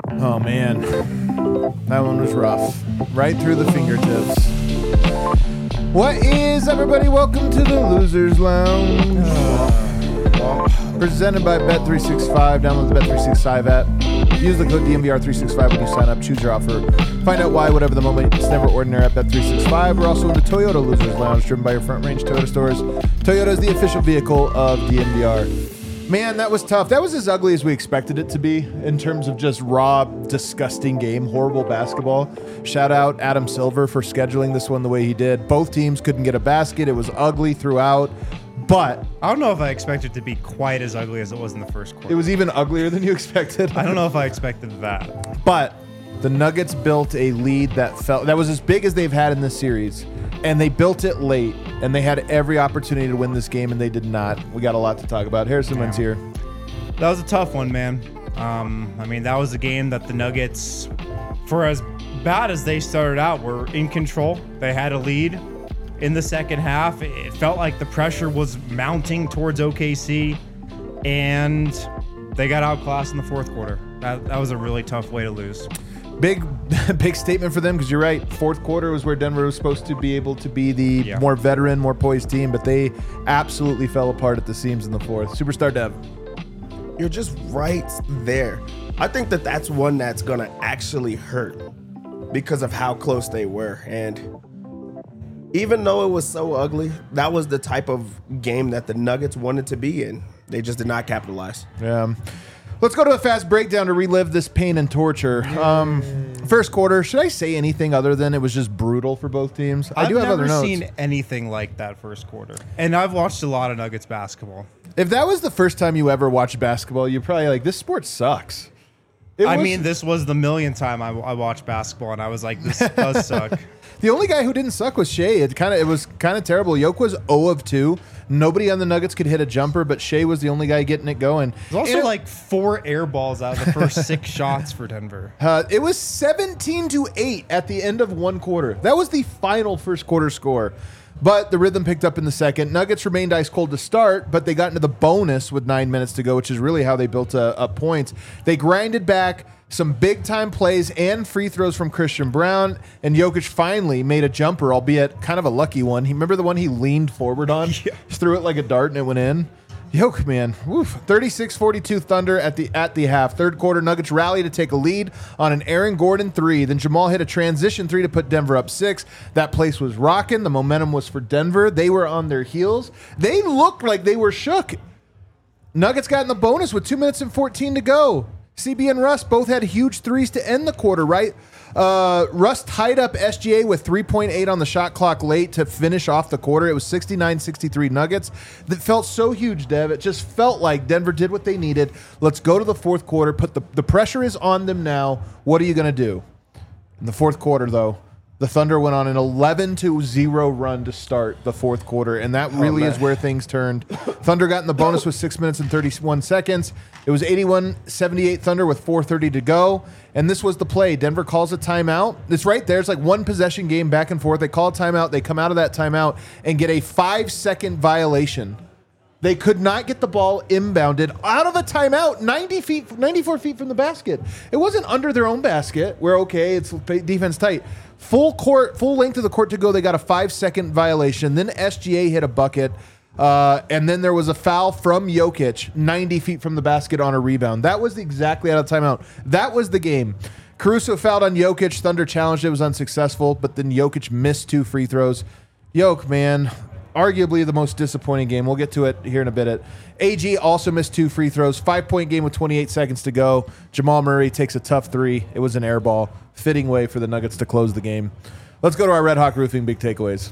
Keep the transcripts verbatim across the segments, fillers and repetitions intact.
Oh, man. That one was rough. Right through the fingertips. What is, everybody? Welcome to the Losers Lounge. Uh, presented by Bet three sixty-five. Download the Bet three sixty-five app. Use the code D M V R three sixty-five when you sign up. Choose your offer. Find out why, whatever the moment. It's never ordinary at Bet three sixty-five. We're also in the Toyota Losers Lounge, driven by your Front Range Toyota stores. Toyota is the official vehicle of D M V R. Man, that was tough. That was as ugly as we expected it to be in terms of just raw, disgusting game, horrible basketball. Shout out Adam Silver for scheduling this one the way he did. Both teams couldn't get a basket. It was ugly throughout, but I don't know if I expected it to be quite as ugly as it was in the first quarter. It was even uglier than you expected. I don't know if I expected that. But the Nuggets built a lead that felt that was as big as they've had in this series, and they built it late, and they had every opportunity to win this game, and they did not. We got a lot to talk about. Harrison Yeah. Wins here. That was a tough one, man. Um, I mean, that was a game that the Nuggets, for as bad as they started out, were in control. They had a lead in the second half. It felt like the pressure was mounting towards O K C, and they got outclassed in the fourth quarter. That, that was a really tough way to lose. Big, big statement for them because you're right. Fourth quarter was where Denver was supposed to be able to be the Yeah. more veteran, more poised team, but they absolutely fell apart at the seams in the fourth. Superstar Dev. You're just right there. I think that that's one that's going to actually hurt because of how close they were. And even though it was so ugly, that was the type of game that the Nuggets wanted to be in. They just did not capitalize. Yeah. Let's go to a fast breakdown to relive this pain and torture. Um, first quarter, should I say anything other than it was just brutal for both teams? I I've do have never other notes. seen anything like that first quarter. And I've watched a lot of Nuggets basketball. If that was the first time you ever watched basketball, you're probably like, this sport sucks. It I was- mean, this was the millionth time I, I watched basketball, and I was like, this does suck. The only guy who didn't suck was Shea. It kind of it was kind of terrible. Yoke was zero of two. Nobody on the Nuggets could hit a jumper, but Shea was the only guy getting it going. There's also And it- like four air balls out of the first six shots for Denver. Uh, it was seventeen to eight at the end of one quarter. That was the final first quarter score. But the rhythm picked up in the second. Nuggets remained ice cold to start, but they got into the bonus with nine minutes to go, which is really how they built uh, up points. They grinded back some big-time plays and free throws from Christian Brown, and Jokic finally made a jumper, albeit kind of a lucky one. He remember the one he leaned forward on? Yeah. Just threw it like a dart and it went in. Yoke, man. thirty-six forty-two Thunder at the at the half. Third quarter, Nuggets rally to take a lead on an Aaron Gordon three. Then Jamal hit a transition three to put Denver up six. That place was rocking. The momentum was for Denver. They were on their heels. They looked like they were shook. Nuggets got in the bonus with two minutes and fourteen to go. C B and Russ both had huge threes to end the quarter, right? Uh, Russ tied up S G A with three point eight on the shot clock late to finish off the quarter. It was sixty-nine sixty-three Nuggets. That felt so huge, Dev. It just felt like Denver did what they needed. Let's go to the fourth quarter. Put the, the pressure is on them now. What are you going to do? In the fourth quarter, though, the Thunder went on an eleven to zero run to start the fourth quarter, and that really man. is where things turned. Thunder got in the bonus with six minutes and thirty-one seconds. It was eighty-one seventy-eight Thunder with four thirty to go, and this was the play. Denver calls a timeout. It's right there. It's like one possession game back and forth. They call a timeout. They come out of that timeout and get a five-second violation. They could not get the ball inbounded out of a timeout, ninety feet, ninety-four feet from the basket. It wasn't under their own basket where, okay, it's defense tight. Full court, full length of the court to go. They got a five-second violation. Then S G A hit a bucket, uh, and then there was a foul from Jokic, ninety feet from the basket on a rebound. That was exactly out of timeout. That was the game. Caruso fouled on Jokic. Thunder challenged. It was unsuccessful, but then Jokic missed two free throws. Yoke, man. Arguably the most disappointing game. We'll get to it here in a bit. A G also missed two free throws. Five-point game with twenty-eight seconds to go. Jamal Murray takes a tough three. It was an air ball. Fitting way for the Nuggets to close the game. Let's go to our Red Hawk Roofing big takeaways.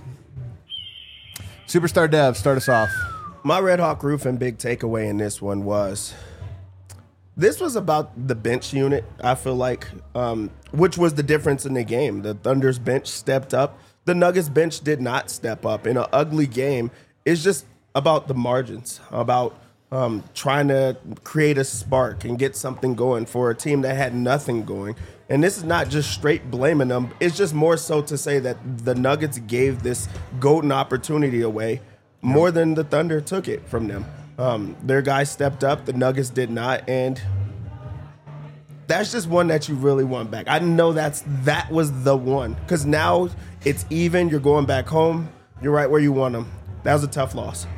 Superstar Dev, start us off. My Red Hawk Roofing big takeaway in this one was this was about the bench unit, I feel like, um, which was the difference in the game. The Thunder's bench stepped up. The Nuggets bench did not step up. In an ugly game, it's just about the margins, about um, trying to create a spark and get something going for a team that had nothing going. And this is not just straight blaming them. It's just more so to say that the Nuggets gave this golden opportunity away more than the Thunder took it from them. Um, their guys stepped up. The Nuggets did not. And that's just one that you really want back. I know that's that was the one because now it's even. You're going back home. You're right where you want them. That was a tough loss.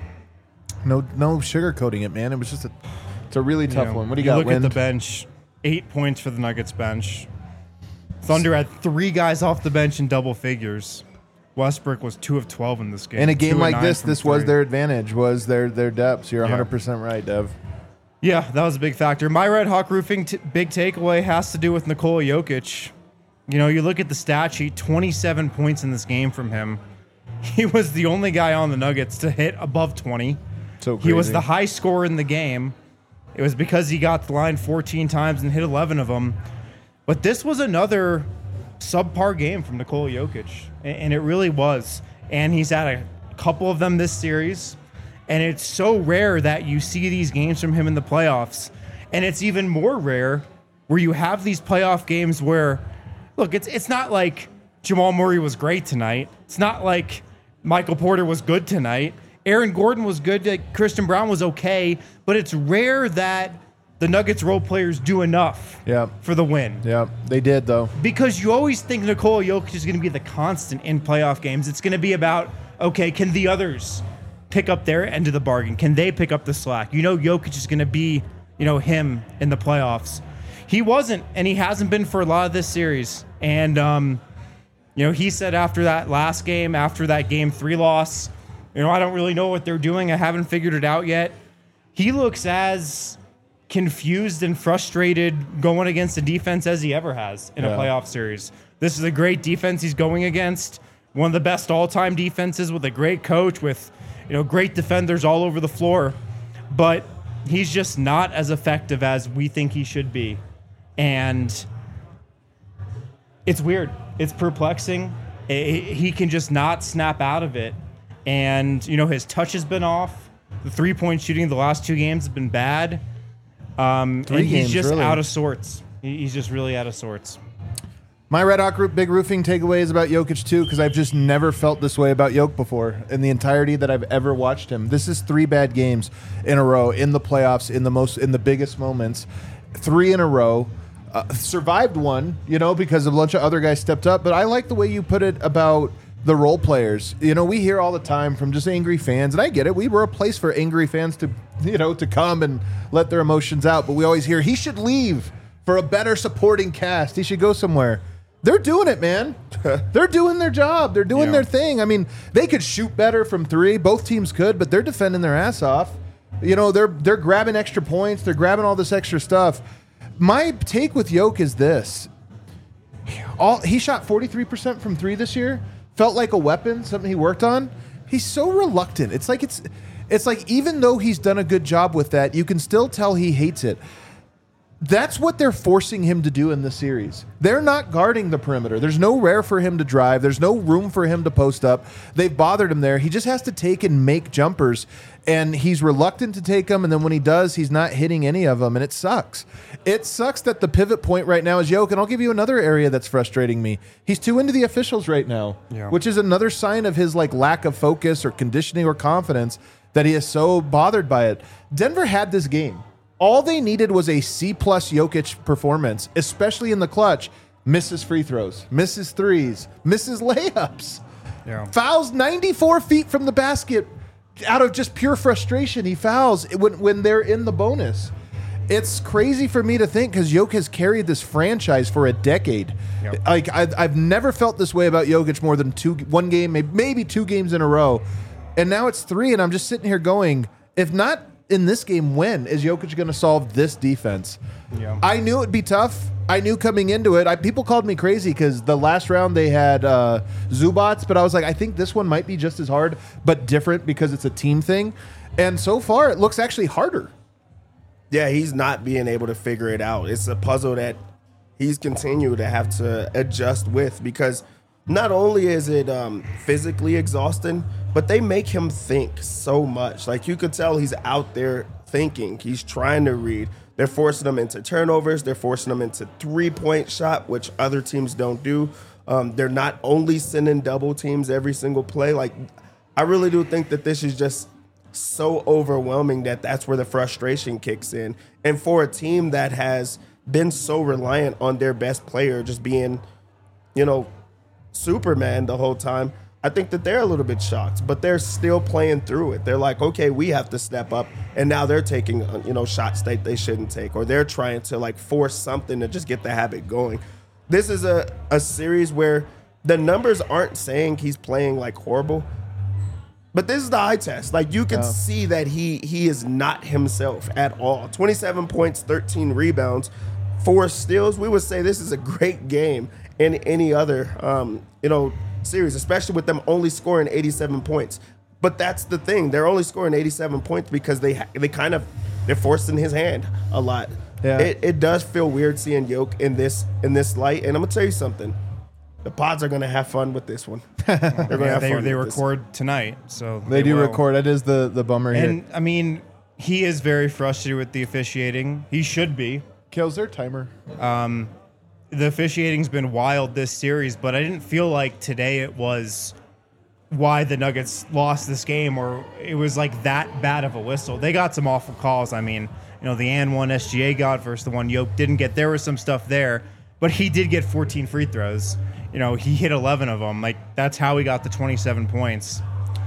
No, no sugarcoating it, man. It was just a, it's a really tough You know, one. What do you, you got? look Wind? at the bench. Eight points for the Nuggets bench. Thunder had three guys off the bench in double figures. Westbrook was two of twelve in this game. In a game Two of like nine this, from this was three. their advantage. Was their their depths. You're Yeah. one hundred percent right, Dev. Yeah, that was a big factor. My Red Hawk Roofing t- big takeaway has to do with Nikola Jokic. You know, you look at the stat sheet, twenty-seven points in this game from him. He was the only guy on the Nuggets to hit above twenty. So crazy. He was the high scorer in the game. It was because he got the line fourteen times and hit eleven of them. But this was another subpar game from Nikola Jokic, a- and it really was. And he's had a couple of them this series. And it's so rare that you see these games from him in the playoffs. And it's even more rare where you have these playoff games where, look, it's it's not like Jamal Murray was great tonight. It's not like Michael Porter was good tonight. Aaron Gordon was good. Like Christian Brown was okay. But it's rare that the Nuggets role players do enough Yeah. for the win. Yeah, they did though. Because you always think Nikola Jokic is going to be the constant in playoff games. It's going to be about, okay, can the others pick up their end of the bargain? Can they pick up the slack? You know Jokic is going to be, you know, him in the playoffs. He wasn't, and he hasn't been for a lot of this series. And, um, you know, he said after that last game, after that game three loss, you know, I don't really know what they're doing. I haven't figured it out yet. He looks as confused and frustrated going against a defense as he ever has in Yeah. a playoff series. This is a great defense he's going against. One of the best all-time defenses with a great coach with, you know, great defenders all over the floor. But he's just not as effective as we think he should be. And it's weird. It's perplexing. I- He can just not snap out of it. And, you know, his touch has been off. The three-point shooting the last two games has been bad. Um, Three and he's games, just really. out of sorts. He- He's just really out of sorts. My Red Hawk Group Big Roofing takeaway is about Jokic too, because I've just never felt this way about Jokic before in the entirety that I've ever watched him. This is three bad games in a row in the playoffs, in the most in the biggest moments, three in a row. Uh, survived one, you know, because a bunch of other guys stepped up. But I like the way you put it about the role players. You know, we hear all the time from just angry fans, and I get it. We were a place for angry fans to, you know, to come and let their emotions out. But we always hear he should leave for a better supporting cast. He should go somewhere. They're doing it, man. They're doing their job. They're doing Yeah. their thing. I mean, they could shoot better from three. Both teams could, but they're defending their ass off. You know, they're they're grabbing extra points. They're grabbing all this extra stuff. My take with Yoke is this: all he shot forty-three percent from three this year. Felt like a weapon, something he worked on. He's so reluctant. It's like it's it's like even though he's done a good job with that, you can still tell he hates it. That's what they're forcing him to do in the series. They're not guarding the perimeter. There's no rare for him to drive. There's no room for him to post up. They've bothered him there. He just has to take and make jumpers, and he's reluctant to take them, and then when he does, he's not hitting any of them, and it sucks. It sucks that the pivot point right now is Yoke, and I'll give you another area that's frustrating me. He's too into the officials right now, Yeah. which is another sign of his like lack of focus or conditioning or confidence that he is so bothered by it. Denver had this game. All they needed was a C-plus Jokic performance, especially in the clutch. Misses free throws, misses threes, misses layups. Yeah. Fouls ninety-four feet from the basket out of just pure frustration. He fouls when, when they're in the bonus. It's crazy for me to think because Jokic has carried this franchise for a decade. Yep. Like I, I've never felt this way about Jokic more than two, one game, maybe, maybe two games in a row. And now it's three, and I'm just sitting here going, if not in this game, when is Jokic going to solve this defense? Yeah. I knew it'd be tough. I knew coming into it. I, people called me crazy because the last round they had uh, Zubats, but I was like, I think this one might be just as hard, but different because it's a team thing. And so far, it looks actually harder. Yeah, he's not being able to figure it out. It's a puzzle that he's continued to have to adjust with because not only is it um, physically exhausting, but they make him think so much. Like you could tell he's out there thinking. He's trying to read. They're forcing him into turnovers. They're forcing him into three-point shot, which other teams don't do. Um, they're not only sending double teams every single play. Like I really do think that this is just so overwhelming that that's where the frustration kicks in. And for a team that has been so reliant on their best player just being, you know, Superman the whole time. I think that they're a little bit shocked, but they're still playing through it. They're like, okay, we have to step up, and now they're taking, you know, shots that they shouldn't take, or they're trying to like force something to just get the habit going. This is a, a series where the numbers aren't saying he's playing like horrible, but this is the eye test. Like you can Yeah. see that he he is not himself at all. twenty-seven points, thirteen rebounds, four steals. We would say this is a great game in any other, um, you know, series, especially with them only scoring eighty-seven points. But that's the thing; they're only scoring eighty-seven points because they ha- they kind of they're forcing his hand a lot. Yeah. It, it does feel weird seeing Yoke in this in this light, and I'm gonna tell you something: the pods are gonna have fun with this one. They're gonna Yeah, have they fun they with this. record tonight, so They do will. record. That is the, the bummer here. And I mean, he is very frustrated with the officiating. He should be. Kills their timer. The officiating's been wild this series, but I didn't feel like today it was why the Nuggets lost this game, or it was like that bad of a whistle. They got some awful calls. I mean, you know, the and one S G A got versus the one Yoke didn't get. There was some stuff there, but he did get fourteen free throws. You know, he hit eleven of them. Like, that's how he got the twenty-seven points.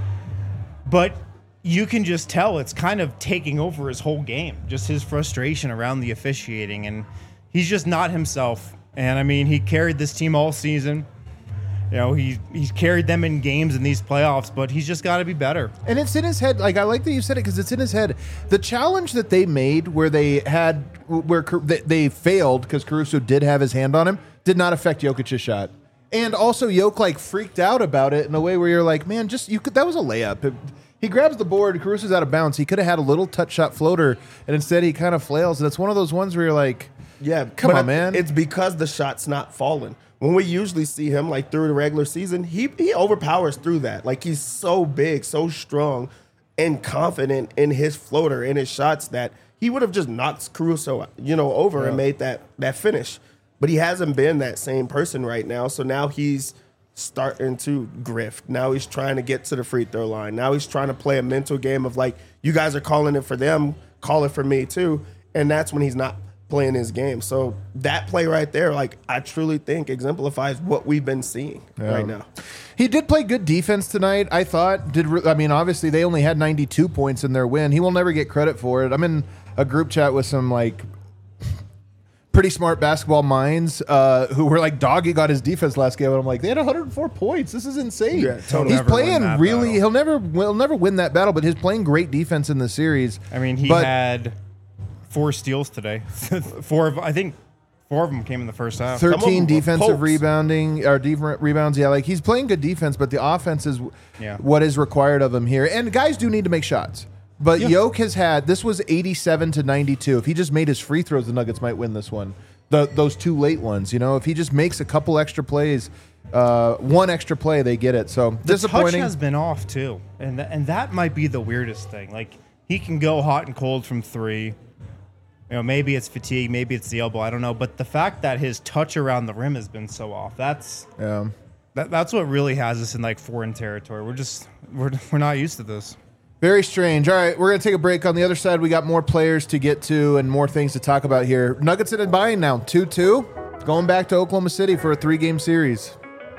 But you can just tell it's kind of taking over his whole game, just his frustration around the officiating, and he's just not himself. And I mean, he carried this team all season. You know, he he's carried them in games in these playoffs, but he's just got to be better. And it's in his head. Like, I like that you said it because it's in his head. The challenge that they made where they had, where Car- they, they failed because Caruso did have his hand on him, did not affect Jokic's shot. And also, Jokic like freaked out about it in a way where you're like, man, just you could. That was a layup. It- he grabs the board. Caruso's out of bounds. He could have had a little touch shot floater, and instead he kind of flails. And it's one of those ones where you're like, Yeah, come but on, man. It's because the shot's not falling. When we usually see him like through the regular season, he he overpowers through that. Like he's so big, so strong, and confident in his floater and his shots that he would have just knocked Caruso, you know, over Yeah. and made that that finish. But he hasn't been that same person right now. So now he's starting to grift. Now he's trying to get to the free throw line. Now he's trying to play a mental game of like, you guys are calling it for them, call it for me too. And that's when he's not playing his game. So that play right there, like I truly think exemplifies what we've been seeing Yeah. right now. He did play good defense tonight, I thought. Did re- I mean, obviously they only had ninety-two points in their win. He will never get credit for it. I'm in a group chat with some like pretty smart basketball minds uh, who were like dogging on his defense last game, and I'm like, they had one hundred four points. This is insane. Yeah, totally. He's Never win playing that really. battle. He'll never. He'll never win that battle, but he's playing great defense in the series. I mean, he But- had four steals today. four of, I think four of them came in the first half. Some of thirteen them were defensive pokes. rebounding or def- rebounds. Yeah, like he's playing good defense, but the offense is Yeah. what is required of him here. And guys do need to make shots. But Yeah. Yoke has had this was eighty-seven to ninety-two. If he just made his free throws, the Nuggets might win this one. The those two late ones, you know, if he just makes a couple extra plays, uh, one extra play, they get it. So The touch disappointing. has been off too, and th- and that might be the weirdest thing. Like he can go hot and cold from three. You know, maybe it's fatigue, maybe it's the elbow. I don't know. But the fact that his touch around the rim has been so off, that's yeah. that, that's what really has us in like foreign territory. We're just we're we're not used to this. Very strange. All right, we're going to take a break. On the other side, we got more players to get to and more things to talk about here. Nuggets in and buying now, two two. Going back to Oklahoma City for a three-game series.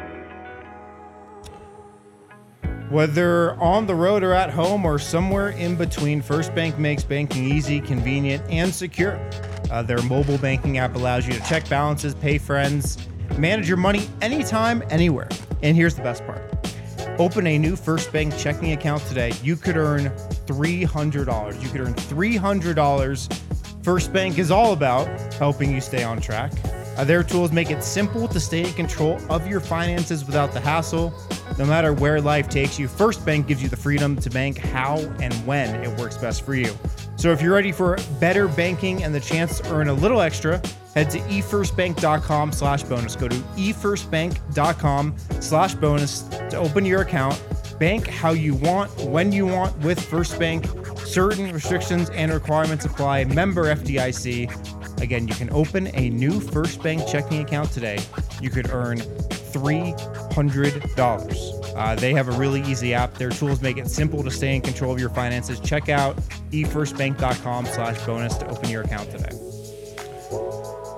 Whether on the road or at home or somewhere in between, First Bank makes banking easy, convenient, and secure. Uh, their mobile banking app allows you to check balances, pay friends, manage your money anytime, anywhere. And here's the best part. Open a new First Bank checking account today. You could earn three hundred dollars. You could earn three hundred dollars. First Bank is all about helping you stay on track. Uh, their tools make it simple to stay in control of your finances without the hassle. No matter where life takes you, First Bank gives you the freedom to bank how and when it works best for you. So if you're ready for better banking and the chance to earn a little extra, head to e first bank dot com slash bonus. Go to e first bank dot com slash bonus to open your account. Bank how you want, when you want with First Bank. Certain restrictions and requirements apply. Member F D I C. Again, you can open a new First Bank checking account today. You could earn three hundred dollars. Uh, they have a really easy app. Their tools make it simple to stay in control of your finances. Check out e first bank dot com slash bonus to open your account today.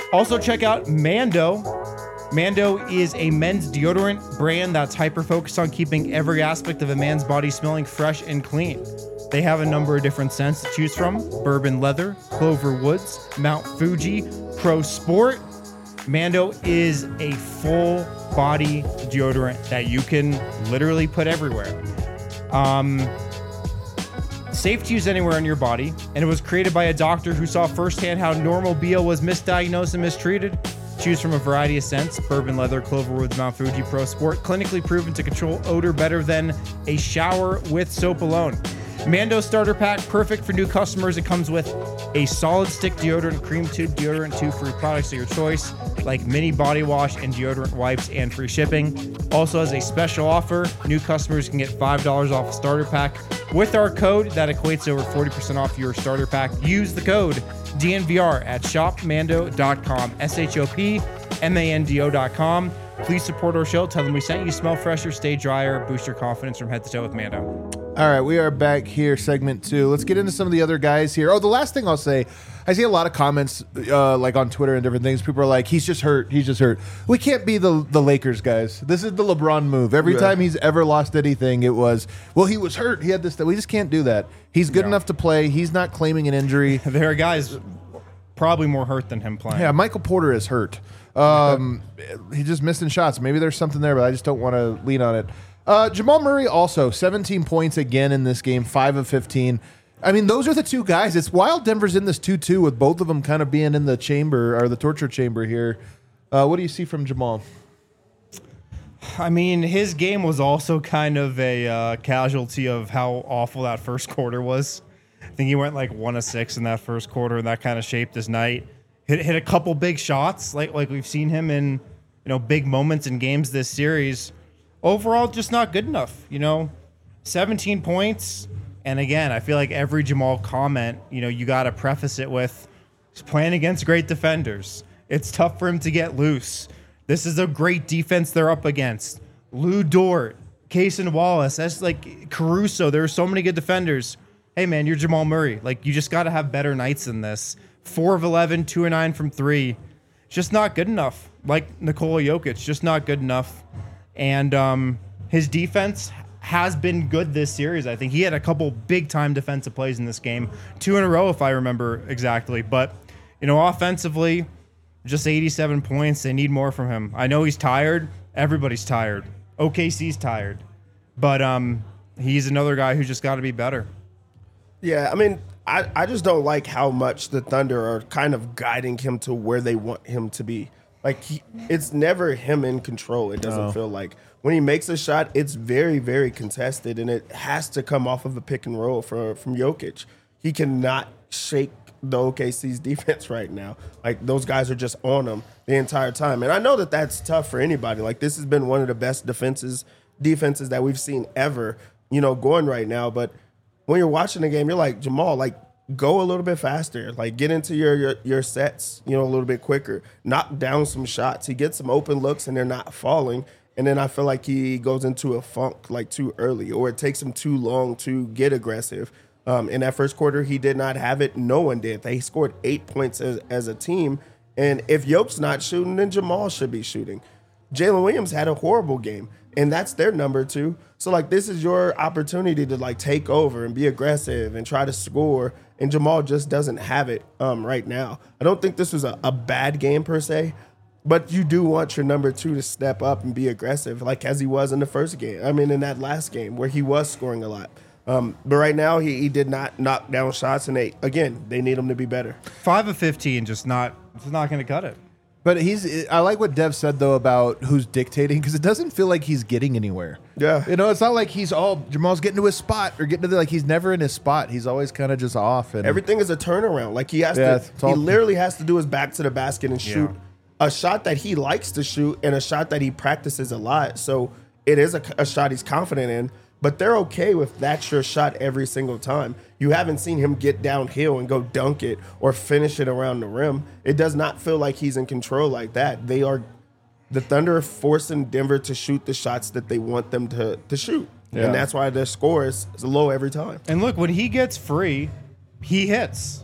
Also, check out Mando. Mando is a men's deodorant brand that's hyper-focused on keeping every aspect of a man's body smelling fresh and clean. They have a number of different scents to choose from: Bourbon Leather, Clover Woods, Mount Fuji, Pro Sport. Mando is a full body deodorant that you can literally put everywhere. Um, safe to use anywhere on your body, and it was created by a doctor who saw firsthand how normal B O was misdiagnosed and mistreated. Choose from a variety of scents: Bourbon Leather, Clover Woods, Mount Fuji, Pro Sport, clinically proven to control odor better than a shower with soap alone. Mando Starter Pack, perfect for new customers. It comes with a solid stick deodorant, cream tube deodorant, two free products of your choice, like mini body wash and deodorant wipes, and free shipping. Also, as a special offer, new customers can get five dollars off a starter pack with our code that equates to over forty percent off your starter pack. Use the code D N V R at shop mando dot com, S H O P M A N D O dot com. Please support our show. Tell them we sent you. Smell fresher, stay drier, boost your confidence from head to toe with Mando. All right, we are back here, segment two. Let's get into some of the other guys here. Oh, the last thing I'll say, I see a lot of comments uh, like on Twitter and different things. People are like, he's just hurt. He's just hurt. We can't be the, the Lakers guys. This is the LeBron move. Every Yeah. time he's ever lost anything, it was, well, he was hurt. He had this. We just can't do that. He's good No. enough to play. He's not claiming an injury. There are guys probably more hurt than him playing. Yeah, Michael Porter is hurt. Um, he's just missing shots. Maybe there's something there, but I just don't want to lean on it. Uh, Jamal Murray also seventeen points again in this game, five of fifteen. I mean, those are the two guys. It's wild Denver's in this two two with both of them kind of being in the chamber or the torture chamber here. Uh, what do you see from Jamal? I mean, his game was also kind of a uh, casualty of how awful that first quarter was. I think he went like one of six in that first quarter, and that kind of shaped his night. Hit hit a couple big shots, like like we've seen him in, you know, big moments in games this series. Overall, just not good enough. You know, seventeen points, and again, I feel like every Jamal comment, you know, you got to preface it with, he's playing against great defenders. It's tough for him to get loose. This is a great defense they're up against. Lou Dort, Cason Wallace, that's like Caruso. There are so many good defenders. Hey, man, you're Jamal Murray. Like, you just got to have better nights than this. four of eleven, two of nine from three. Just not good enough. Like Nikola Jokic, just not good enough. And um, his defense has been good this series. I think he had a couple big-time defensive plays in this game. Two in a row, if I remember exactly. But, you know, offensively, just eighty-seven points. They need more from him. I know he's tired. Everybody's tired. O K C's tired. But um, he's another guy who's just got to be better. Yeah, I mean, I, I just don't like how much the Thunder are kind of guiding him to where they want him to be. Like, he, it's never him in control, it doesn't No. feel like. When he makes a shot, it's very, very contested, and it has to come off of a pick and roll from, from Jokic. He cannot shake the O K C's defense right now. Like, those guys are just on him the entire time. And I know that that's tough for anybody. Like, this has been one of the best defenses defenses that we've seen ever, you know, going right now. But when you're watching the game, you're like, Jamal, like, go a little bit faster. Like, get into your, your your sets, you know, a little bit quicker. Knock down some shots. He gets some open looks, and they're not falling. And then I feel like he goes into a funk, like, too early, or it takes him too long to get aggressive. Um, in that first quarter, he did not have it. No one did. They scored eight points as, as a team. And if Yoke's not shooting, then Jamal should be shooting. Jalen Williams had a horrible game, and that's their number two. So, like, this is your opportunity to, like, take over and be aggressive and try to score, and Jamal just doesn't have it um, right now. I don't think this was a, a bad game per se, but you do want your number two to step up and be aggressive, like as he was in the first game. I mean, in that last game where he was scoring a lot. Um, but right now, he, he did not knock down shots, and they again, they need him to be better. Five of fifteen, just not, just not going to cut it. But he's. I like what Dev said though about who's dictating, because it doesn't feel like he's getting anywhere. Yeah. you know, it's not like he's all Jamal's getting to his spot or getting to the, like he's never in his spot. He's always kind of just off. And Everything is a turnaround. Like he has Yeah, to, it's all- he literally has to do his back to the basket and shoot Yeah. a shot that he likes to shoot and a shot that he practices a lot. So it is a, a shot he's confident in. But they're okay with that's your shot every single time. You haven't seen him get downhill and go dunk it or finish it around the rim. It does not feel like he's in control like that. They are, the Thunder are forcing Denver to shoot the shots that they want them to, to shoot. Yeah. And that's why their score is, is low every time. And look, when he gets free, he hits.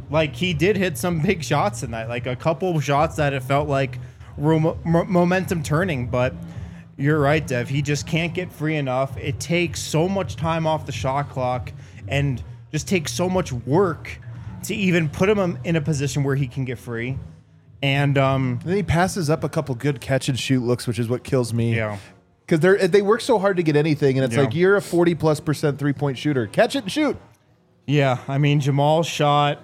like he did hit some big shots in that, like a couple shots that it felt like were mo- momentum turning. But you're right, Dev. He just can't get free enough. It takes so much time off the shot clock and just takes so much work to even put him in a position where he can get free. And um, And then he passes up a couple good catch and shoot looks, which is what kills me. yeah. Because they they work so hard to get anything, and it's Yeah. like, you're a forty plus percent three point shooter. Catch it and shoot. Yeah, I mean, Jamal shot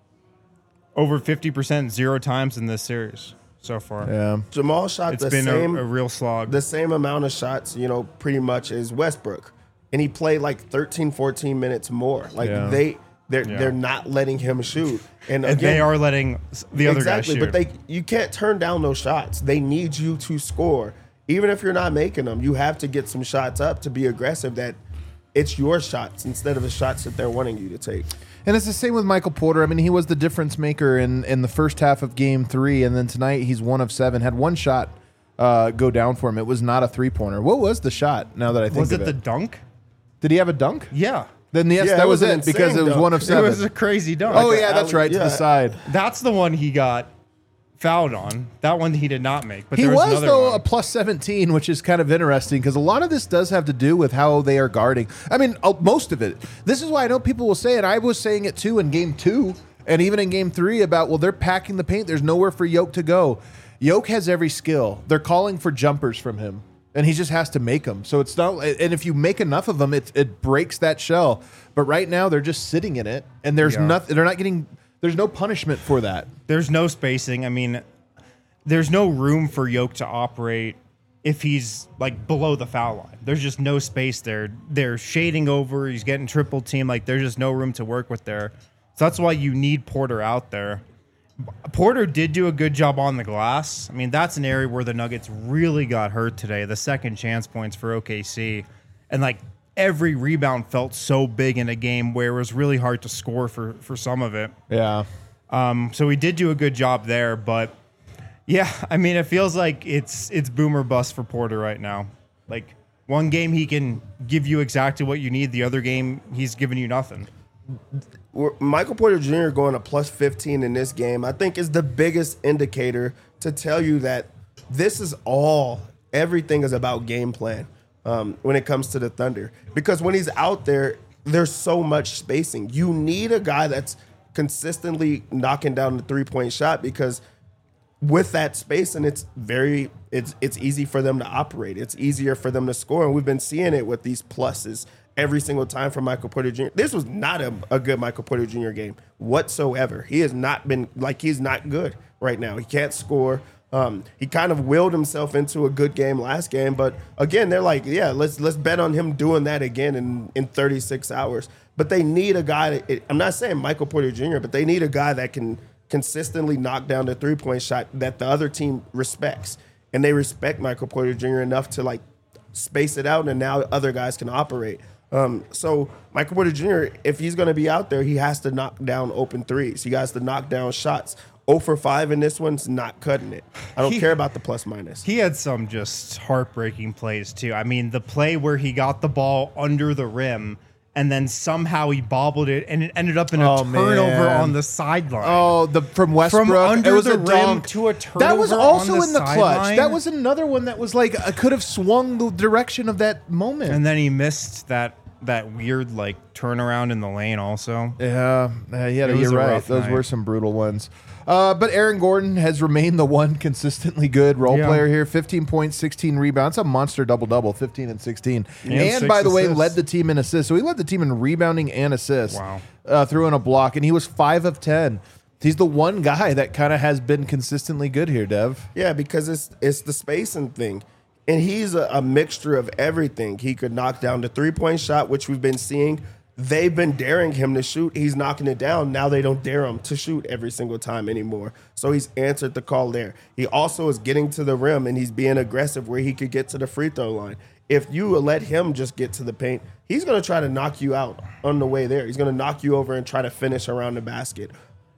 over fifty percent zero times in this series so far. Yeah. Jamal shot It's the been same a, a real slog. the same amount of shots, you know, pretty much as Westbrook. And he played like thirteen, fourteen minutes more. Like Yeah. they they're Yeah. they're not letting him shoot. And, and again, they are letting s- the other guys exactly, shoot. but they you can't turn down those shots. They need you to score. Even if you're not making them, you have to get some shots up to be aggressive, that it's your shots instead of the shots that they're wanting you to take. And it's the same with Michael Porter. I mean, he was the difference maker in, in the first half of game three, and then tonight he's one of seven. Had one shot uh, go down for him. It was not a three-pointer. What was the shot, now that I think was of it the it? dunk? Did he have a dunk? Yeah. Then yes, Yeah, that it was was an it, because insane it was dunk. one of It seven. was a crazy dunk. oh, Like yeah, a that's alley- right, to yeah. the side. That's the one he got fouled on. That one he did not make. But He there was, was, another though, one. a plus seventeen, which is kind of interesting because a lot of this does have to do with how they are guarding. I mean, uh, most of it. This is why I know people will say it. I was saying it, too, in game two and even in game three about, well, they're packing the paint. There's nowhere for Yoke to go. Yoke has every skill. They're calling for jumpers from him, and he just has to make them. So it's not, and if you make enough of them, it, it breaks that shell. But right now, they're just sitting in it, and there's Yeah. nothing, they're not getting, there's no punishment for that. There's no spacing. I mean, there's no room for Yoke to operate if he's like below the foul line. There's just no space there. They're shading over. He's getting triple team. Like there's just no room to work with there. So that's why you need Porter out there. Porter did do a good job on the glass. I mean, that's an area where the Nuggets really got hurt today. The second chance points for O K C. And like every rebound felt so big in a game where it was really hard to score for, for some of it. Yeah. Um, so he did do a good job there, but yeah, I mean, it feels like it's it's boomer bust for Porter right now. Like one game he can give you exactly what you need. The other game he's giving you nothing. We're- Michael Porter Junior going to plus fifteen in this game, I think, is the biggest indicator to tell you that this is all, everything is about game plan um, when it comes to the Thunder. Because when he's out there, there's so much spacing. You need a guy that's consistently knocking down the three-point shot, because with that space, and it's very it's it's easy for them to operate. It's easier for them to score, and we've been seeing it with these pluses every single time for Michael Porter Junior This was not a, a good Michael Porter Junior game whatsoever. He has not been like he's not good right now. He can't score. Um, he kind of willed himself into a good game last game, but again, they're like, yeah, let's let's bet on him doing that again in in thirty-six hours. But they need a guy. That, it, I'm not saying Michael Porter Junior, but they need a guy that can consistently knock down the three-point shot that the other team respects. And they respect Michael Porter Junior enough to like space it out, and now other guys can operate. Um, so Michael Porter Junior, if he's going to be out there, he has to knock down open threes. He has to knock down shots. zero for five in this one's not cutting it. I don't He- care about the plus minus. He had some just heartbreaking plays too. I mean, the play where he got the ball under the rim and then somehow he bobbled it and it ended up in a Oh, turnover man. on the sideline. Oh, the from Westbrook. under it was the a rim dunk. to a That was turnover also on the in the clutch. sideline. That was another one that was like uh, could have swung the direction of that moment. And then he missed that that weird like turnaround in the lane also. yeah, uh, yeah, It was you're a right. rough Those night. were some brutal ones. Uh, but Aaron Gordon has remained the one consistently good role Yeah. player here. fifteen points, sixteen rebounds. A monster double-double, fifteen and sixteen. And And, six by the way, assists. led the team in assists. So he led the team in rebounding and assists. Wow. Uh, threw in a block, and he was five of ten. He's the one guy that kind of has been consistently good here, Dev. Yeah, because it's it's the spacing thing. And he's a, a mixture of everything. He could knock down the three-point shot, which we've been seeing. They've been daring him to shoot. He's knocking it down. Now they don't dare him to shoot every single time anymore. So he's answered the call there. He also is getting to the rim, and he's being aggressive where he could get to the free throw line. If you let him just get to the paint, he's going to try to knock you out on the way there. He's going to knock you over and try to finish around the basket.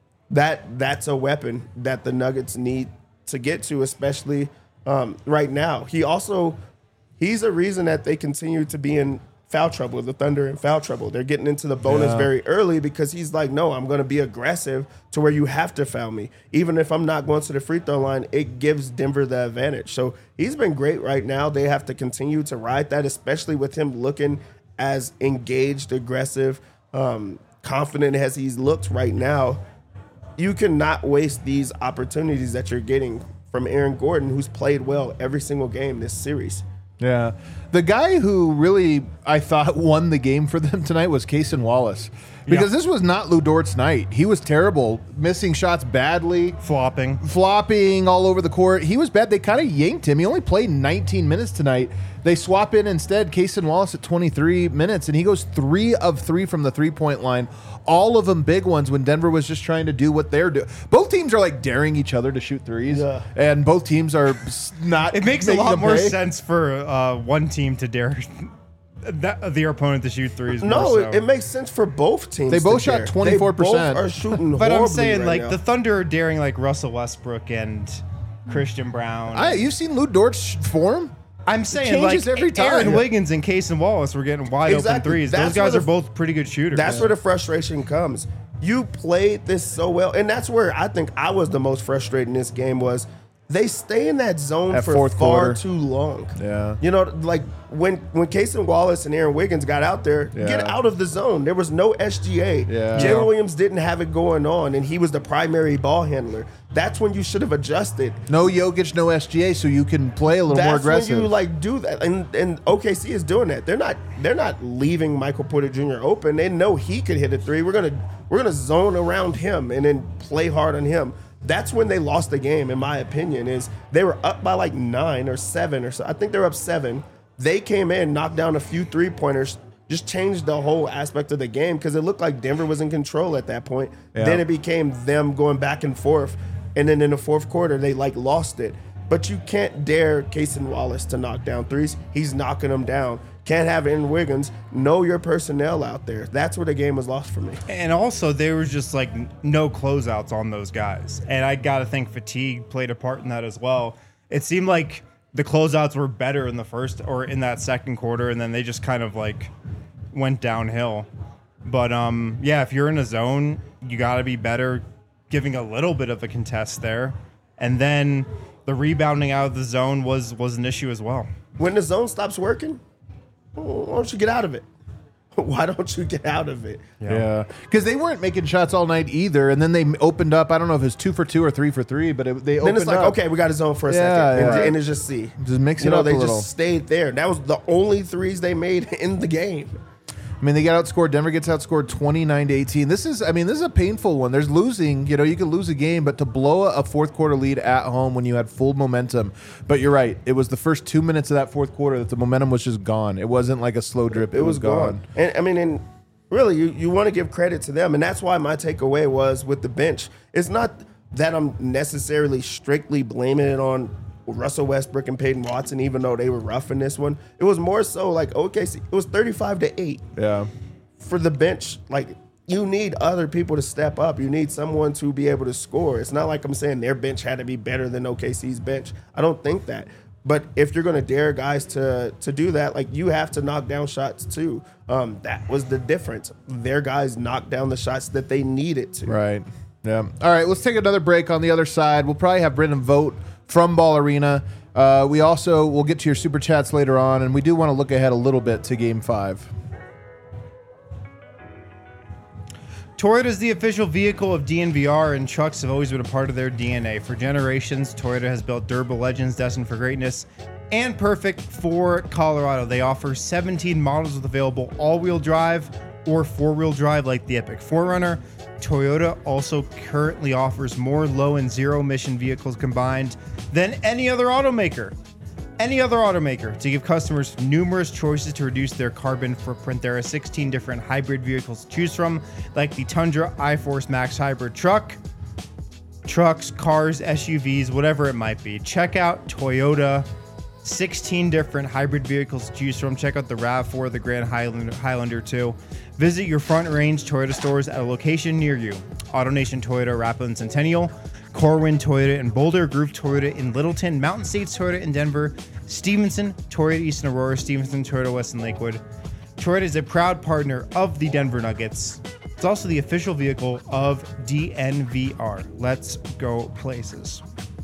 That that's a weapon that the Nuggets need to get to, especially um, right now. He also he's a reason that they continue to be in foul trouble. The Thunder in foul trouble. They're getting into the bonus Yeah. very early because he's like, no, I'm going to be aggressive to where you have to foul me. Even if I'm not going to the free throw line, it gives Denver the advantage. So he's been great right now. They have to continue to ride that, especially with him looking as engaged, aggressive, um, confident as he's looked right now. You cannot waste these opportunities that you're getting from Aaron Gordon, who's played well every single game this series. Yeah. The guy who really, I thought, won the game for them tonight was Cason Wallace. Because Yeah. this was not Lou Dort's night. He was terrible, missing shots badly, Flopping. flopping all over the court. He was bad. They kind of yanked him. He only played nineteen minutes tonight. They swap in instead Cason Wallace at twenty-three minutes, and he goes three of three from the three-point line. All of them big ones when Denver was just trying to do what they're doing. Both teams are like daring each other to shoot threes, Yeah. and both teams are s- not. It makes a making lot them more pay. sense for uh, one team to dare that, their opponent to shoot threes. No, more so. it, it makes sense for both teams. They both to shot dare. twenty-four percent. They both are shooting But I'm horribly saying, right like, now. the Thunder are daring, like, Russell Westbrook and Christian Brown. I, you've seen Lou Dort's form? I'm saying, changes like, every time. Aaron Wiggins and Cason Wallace were getting wide open Exactly. threes. That's Those guys where are the- both pretty good shooters. That's where the frustration comes. You played this so well, and that's where I think I was the most frustrated in this game was they stay in that zone That for fourth far quarter. too long. Yeah. You know, like when when Cason Wallace and Aaron Wiggins got out there, Yeah. get out of the zone. There was no S G A. Yeah. Jalen Yeah. Williams didn't have it going on, and he was the primary ball handler. That's when you should have adjusted. No Jokic, no S G A, so you can play a little That's more aggressive. when you like do that, and and O K C is doing that. They're not they're not leaving Michael Porter Junior open. They know he could hit a three. We're gonna we're gonna zone around him and then play hard on him. That's when they lost the game, in my opinion. Is they were up by like nine or seven or so. I think they were up seven. They came in, knocked down a few three pointers, just changed the whole aspect of the game because it looked like Denver was in control at that point. Yeah. Then it became them going back and forth. And then in the fourth quarter, they like lost it. But you can't dare Cason Wallace to knock down threes. He's knocking them down. Can't have Aaron Wiggins. Know your personnel out there. That's where the game was lost for me. And also, there was just like no closeouts on those guys. And I got to think fatigue played a part in that as well. It seemed like the closeouts were better in the first or in that second quarter, and then they just kind of like went downhill. But um, yeah, if you're in a zone, you got to be better giving a little bit of a contest there. And then the rebounding out of the zone was was an issue as well. When the zone stops working, why don't you get out of it? Why don't you get out of it? Yeah, because they weren't making shots all night either, and then they opened up. I don't know if it was two for two or three for three, but it, they Then opened it's like, up. okay, we got a zone for a Yeah, second. And, yeah. and it's just C. Just mix You it know, up they a just little. stayed there. That was the only threes they made in the game. I mean, they got outscored. Denver gets outscored twenty-nine to eighteen. This is, I mean, this is a painful one. There's losing. You know, you could lose a game, but to blow a fourth quarter lead at home when you had full momentum. But you're right. It was the first two minutes of that fourth quarter that the momentum was just gone. It wasn't like a slow drip. It, It was, was gone. gone. And I mean, and really, you, you want to give credit to them. And that's why my takeaway was with the bench. It's not that I'm necessarily strictly blaming it on Russell Westbrook and Peyton Watson, even though they were rough in this one. It was more so like, okay, see, it was thirty-five to eight Yeah. for the bench. Like, you need other people to step up. You need someone to be able to score. It's not like I'm saying their bench had to be better than O K C's bench. I don't think that. But if you're going to dare guys to to do that, like, you have to knock down shots too. Um, that was the difference. Their guys knocked down the shots that they needed to. Right. Yeah. All right. Let's take another break on the other side. We'll probably have Brendan vote from Ball Arena. Uh, we also will get to your super chats later on, and we do want to look ahead a little bit to Game Five. Toyota is the official vehicle of D N V R, and trucks have always been a part of their D N A. For generations, Toyota has built durable legends destined for greatness and perfect for Colorado. They offer seventeen models with available all-wheel drive or four-wheel drive like the Epic four runner. Toyota also currently offers more low and zero emission vehicles combined than any other automaker. Any other automaker. To give customers numerous choices to reduce their carbon footprint, there are sixteen different hybrid vehicles to choose from, like the Tundra iForce Max hybrid truck, trucks, cars, S U Vs, whatever it might be. Check out Toyota. sixteen different hybrid vehicles to choose from. Check out the RAV four, the Grand Highlander, Highlander two. Visit your Front Range Toyota stores at a location near you. AutoNation Toyota, Rapid Centennial, Corwin Toyota in Boulder, Groove Toyota in Littleton, Mountain States Toyota in Denver, Stevenson Toyota East in Aurora, Stevenson Toyota West in Lakewood, Detroit is a proud partner of the Denver Nuggets. It's also the official vehicle of D N V R. Let's go places.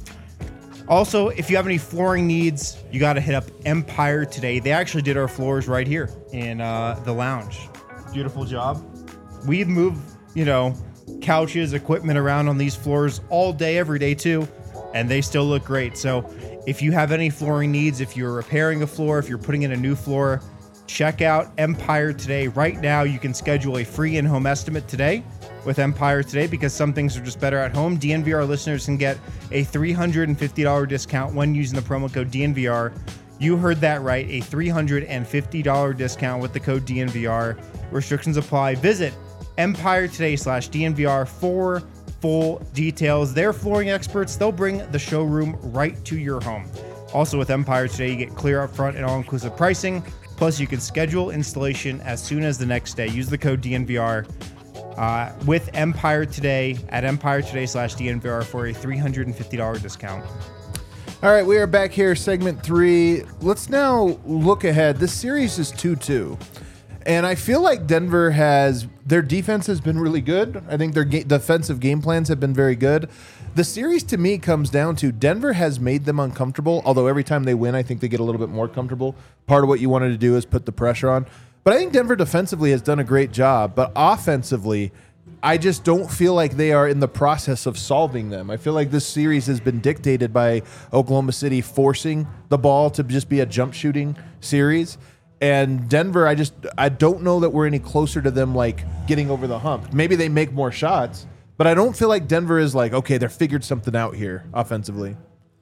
Also, if you have any flooring needs, you got to hit up Empire Today. They actually did our floors right here in uh, the lounge. Beautiful job. We've moved, you know, couches, equipment around on these floors all day, every day too, and they still look great. So if you have any flooring needs, if you're repairing a floor, if you're putting in a new floor, check out Empire Today. Right now, you can schedule a free in-home estimate today with Empire Today because some things are just better at home. D N V R listeners can get a three hundred fifty dollars discount when using the promo code D N V R. You heard that right, a three hundred fifty dollars discount with the code D N V R. Restrictions apply. Visit Empire Today slash D N V R for full details. They're flooring experts. They'll bring the showroom right to your home. Also with Empire Today, you get clear upfront and all-inclusive pricing. Plus, you can schedule installation as soon as the next day. Use the code D N V R uh, with Empire Today at Empire Today slash D N V R for a three hundred fifty dollars discount. All right, we are back here, segment three. Let's now look ahead. This series is two two. And I feel like Denver has, their defense has been really good. I think their ga- defensive game plans have been very good. The series to me comes down to Denver has made them uncomfortable, although every time they win, I think they get a little bit more comfortable. Part of what you wanted to do is put the pressure on. But I think Denver defensively has done a great job. But offensively, I just don't feel like they are in the process of solving them. I feel like this series has been dictated by Oklahoma City forcing the ball to just be a jump shooting series. And Denver, I just I don't know that we're any closer to them like getting over the hump. Maybe they make more shots, but I don't feel like Denver is like, okay, they're figured something out here offensively.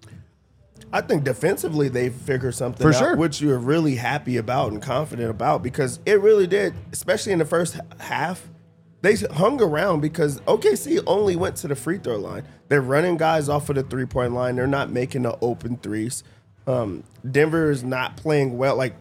I think defensively they figured something For out, sure. which you're really happy about and confident about because it really did, especially in the first half. They hung around because O K C only went to the free throw line. They're running guys off of the three-point line. They're not making the open threes. Um, Denver is not playing well. Like,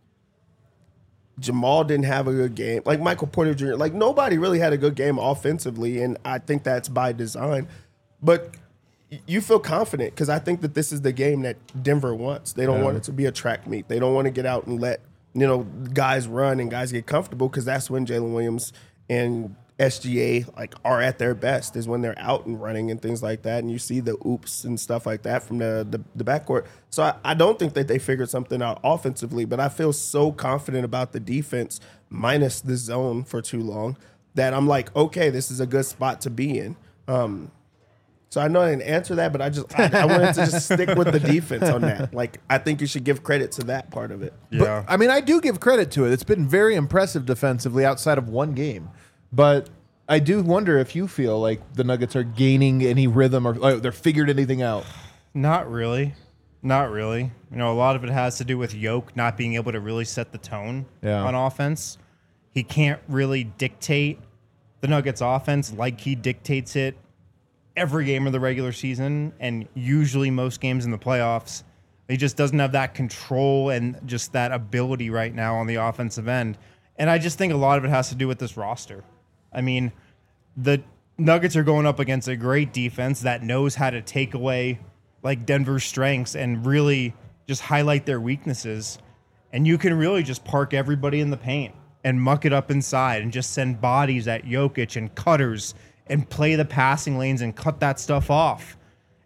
Jamal didn't have a good game. Like, Michael Porter Junior Like, nobody really had a good game offensively, and I think that's by design. But you feel confident because I think that this is the game that Denver wants. They don't Yeah. want it to be a track meet. They don't want to get out and let, you know, guys run and guys get comfortable because that's when Jalen Williams and S G A like are at their best is when they're out and running and things like that. And you see the oops and stuff like that from the the, the backcourt. So I, I don't think that they figured something out offensively, but I feel so confident about the defense minus the zone for too long that I'm like, okay, this is a good spot to be in. Um, so I know I didn't answer that, but I just I, I wanted to just stick with the defense on that. Like, I think you should give credit to that part of it. Yeah. But, I mean, I do give credit to it. It's been very impressive defensively outside of one game. But I do wonder if you feel like the Nuggets are gaining any rhythm or like, they're figured anything out. Not really. Not really. You know, a lot of it has to do with Yoke not being able to really set the tone Yeah. on offense. He can't really dictate the Nuggets offense like he dictates it every game of the regular season and usually most games in the playoffs. He just doesn't have that control and just that ability right now on the offensive end. And I just think a lot of it has to do with this roster. I mean, the Nuggets are going up against a great defense that knows how to take away like Denver's strengths and really just highlight their weaknesses. And you can really just park everybody in the paint and muck it up inside and just send bodies at Jokic and cutters and play the passing lanes and cut that stuff off.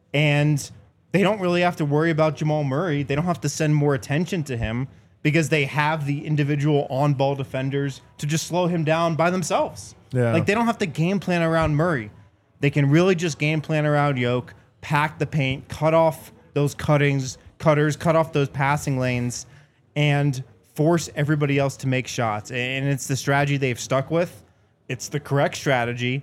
And they don't really have to worry about Jamal Murray. They don't have to send more attention to him because they have the individual on-ball defenders to just slow him down by themselves. Yeah. Like, they don't have to game plan around Murray. They can really just game plan around Yoke, pack the paint, cut off those cuttings, cutters, cut off those passing lanes, and force everybody else to make shots. And it's the strategy they've stuck with. It's the correct strategy.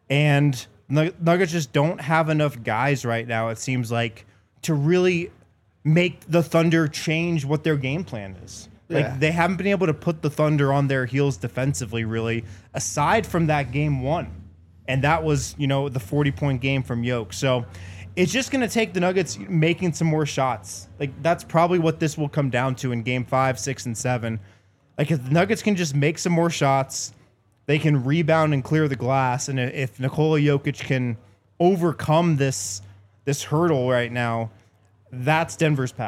And Nuggets just don't have enough guys right now, it seems like, to really make the Thunder change what their game plan is. Like, Yeah. they haven't been able to put the Thunder on their heels defensively, really, aside from that game one. And that was, you know, the forty-point game from Yoke. So it's just going to take the Nuggets making some more shots. Like, that's probably what this will come down to in game five, six, and seven. Like, if the Nuggets can just make some more shots, they can rebound and clear the glass. And if Nikola Jokic can overcome this this hurdle right now, that's Denver's path.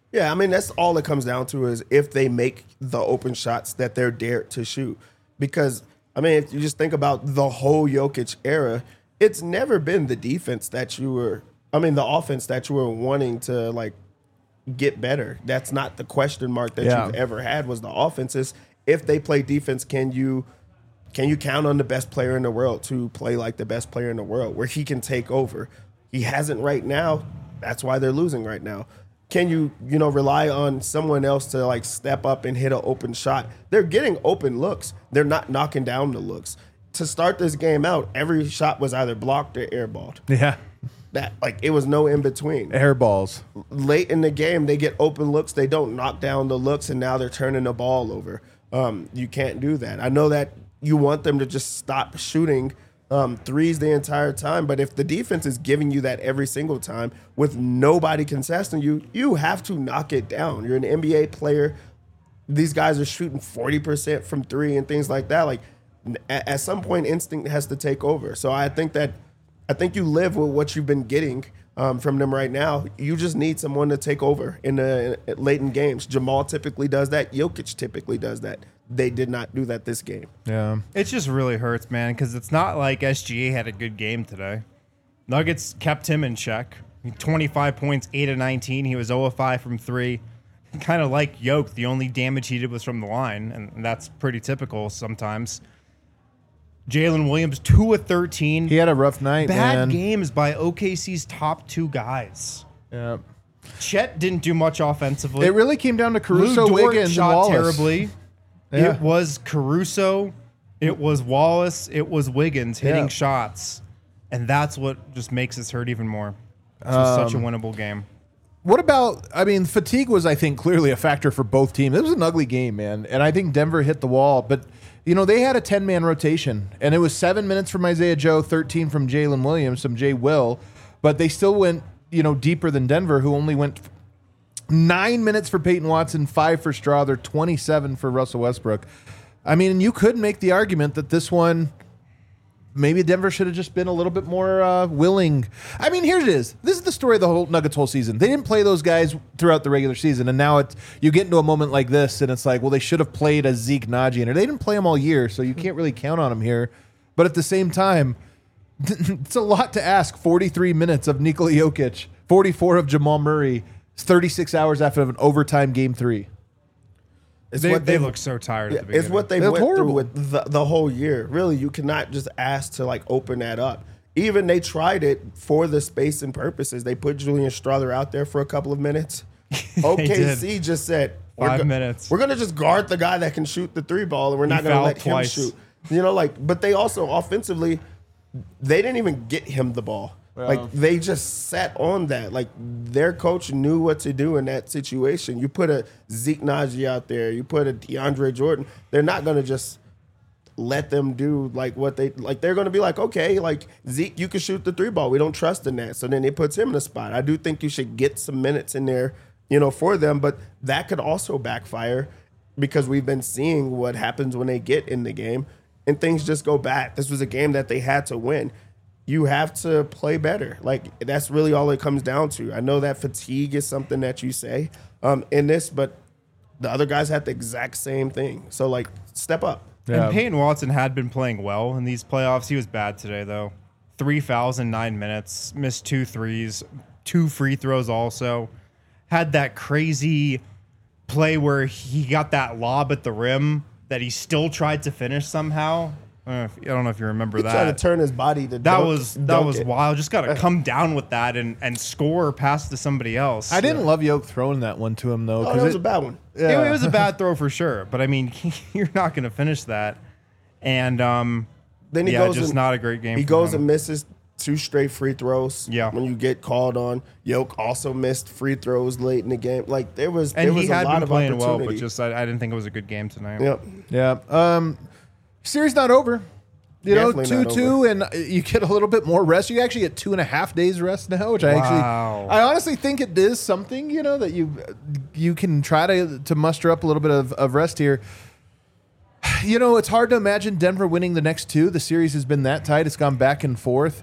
Yeah, I mean, that's all it comes down to is if they make the open shots that they're dared to shoot. Because, I mean, if you just think about the whole Jokic era, it's never been the defense that you were, I mean, the offense that you were wanting to, like, get better. That's not the question mark that Yeah. you've ever had was the offenses. If they play defense, can you can you count on the best player in the world to play like the best player in the world where he can take over? He hasn't right now. That's why they're losing right now. Can you, you know, rely on someone else to like step up and hit an open shot? They're getting open looks. They're not knocking down the looks. To start this game out, every shot was either blocked or airballed. Yeah. That like it was no in between. Air balls. Late in the game, they get open looks. They don't knock down the looks, and now they're turning the ball over. Um, you can't do that. I know that you want them to just stop shooting um, threes the entire time, but if the defense is giving you that every single time with nobody contesting you, you have to knock it down. You're an N B A player. These guys are shooting forty percent from three and things like that. Like at, at some point, instinct has to take over. So I think that I think you live with what you've been getting um, from them right now. You just need someone to take over in the in, late in games. Jamal typically does that. Jokic typically does that. They did not do that this game. Yeah. It just really hurts, man, because it's not like S G A had a good game today. Nuggets kept him in check. twenty-five points, eight of nineteen. He was zero of five from three. Kind of like Yoke, the only damage he did was from the line, and that's pretty typical sometimes. Jalen Williams, two of thirteen. He had a rough night, Bad man. games by O K C's top two guys. Yeah. Chet didn't do much offensively. It really came down to Caruso, Lou Dort Wiggins, shot and Wallace. terribly. Yeah. It was Caruso, it was Wallace, it was Wiggins hitting Yeah. shots, and that's what just makes us hurt even more. This was such Um, a winnable game. What about, I mean, fatigue was, I think, clearly a factor for both teams. It was an ugly game, man. And I think Denver hit the wall. But, you know, they had a ten-man rotation. And it was seven minutes from Isaiah Joe, thirteen from Jalen Williams, some Jay Will. But they still went, you know, deeper than Denver, who only went nine minutes for Peyton Watson, five for Strawther, twenty-seven for Russell Westbrook. I mean, you could make the argument that this one, maybe Denver should have just been a little bit more uh, willing. I mean, here it is. This is the story of the whole Nuggets whole season. They didn't play those guys throughout the regular season, and now it's you get into a moment like this, and it's like, well, they should have played a Zeke Naji, and they didn't play them all year, so you can't really count on them here. But at the same time, it's a lot to ask. forty-three minutes of Nikola Jokic, forty-four of Jamal Murray, thirty-six hours after an overtime game three. It's They, what they they've- look so tired Yeah, at the beginning. it's what they They're went horrible. through with the, the whole year. Really, you cannot just ask to like open that up. Even they tried it for the space and purposes. They put Julian Strawther out there for a couple of minutes. O K C just said we're Five go- minutes. We're gonna just guard the guy that can shoot the three ball, and we're not gonna fouled let him twice. shoot. You know, like, but they also offensively, they didn't even get him the ball. Like they just sat on that. Like their coach knew what to do in that situation. You put a Zeke Naji out there, you put a DeAndre Jordan. They're not gonna just let them do like what they like. They're gonna be like, okay, like Zeke, you can shoot the three ball. We don't trust in that. So then it puts him in a spot. I do think you should get some minutes in there, you know, for them. But that could also backfire because we've been seeing what happens when they get in the game and things just go bad. This was a game that they had to win. You have to play better. Like, that's really all it comes down to. I know that fatigue is something that you say um, in this, but the other guys had the exact same thing. So, like, step up. Yeah. And Peyton Watson had been playing well in these playoffs. He was bad today, though. Three fouls in nine minutes, missed two threes, two free throws also. Had that crazy play where he got that lob at the rim that he still tried to finish somehow. I don't know if, I don't know if you remember He that. tried to turn his body to That dunk- was that dunk was it. wild. Just got to come down with that and, and score pass to somebody else. I didn't love Yoke throwing that one to him, though. Oh, 'cause that was it- a bad one. yeah. It, it was a bad throw for sure, but I mean, you're not going to finish that. And um, Then he yeah, goes just and- not a great game. He for goes him. and misses two straight free throws. Yeah. When you get called on, Yoke also missed free throws late in the game. Like there was, and there was he a had lot been of playing well, opportunity. but just I, I didn't think it was a good game tonight. Yep. Yeah. Um, series not over. You Definitely know, not two two, and you get a little bit more rest. You actually get two and a half days rest now, which I Wow. actually, I honestly think it is something. You know that you you can try to to muster up a little bit of, of rest here. You know, it's hard to imagine Denver winning the next two. The series has been that tight; it's gone back and forth.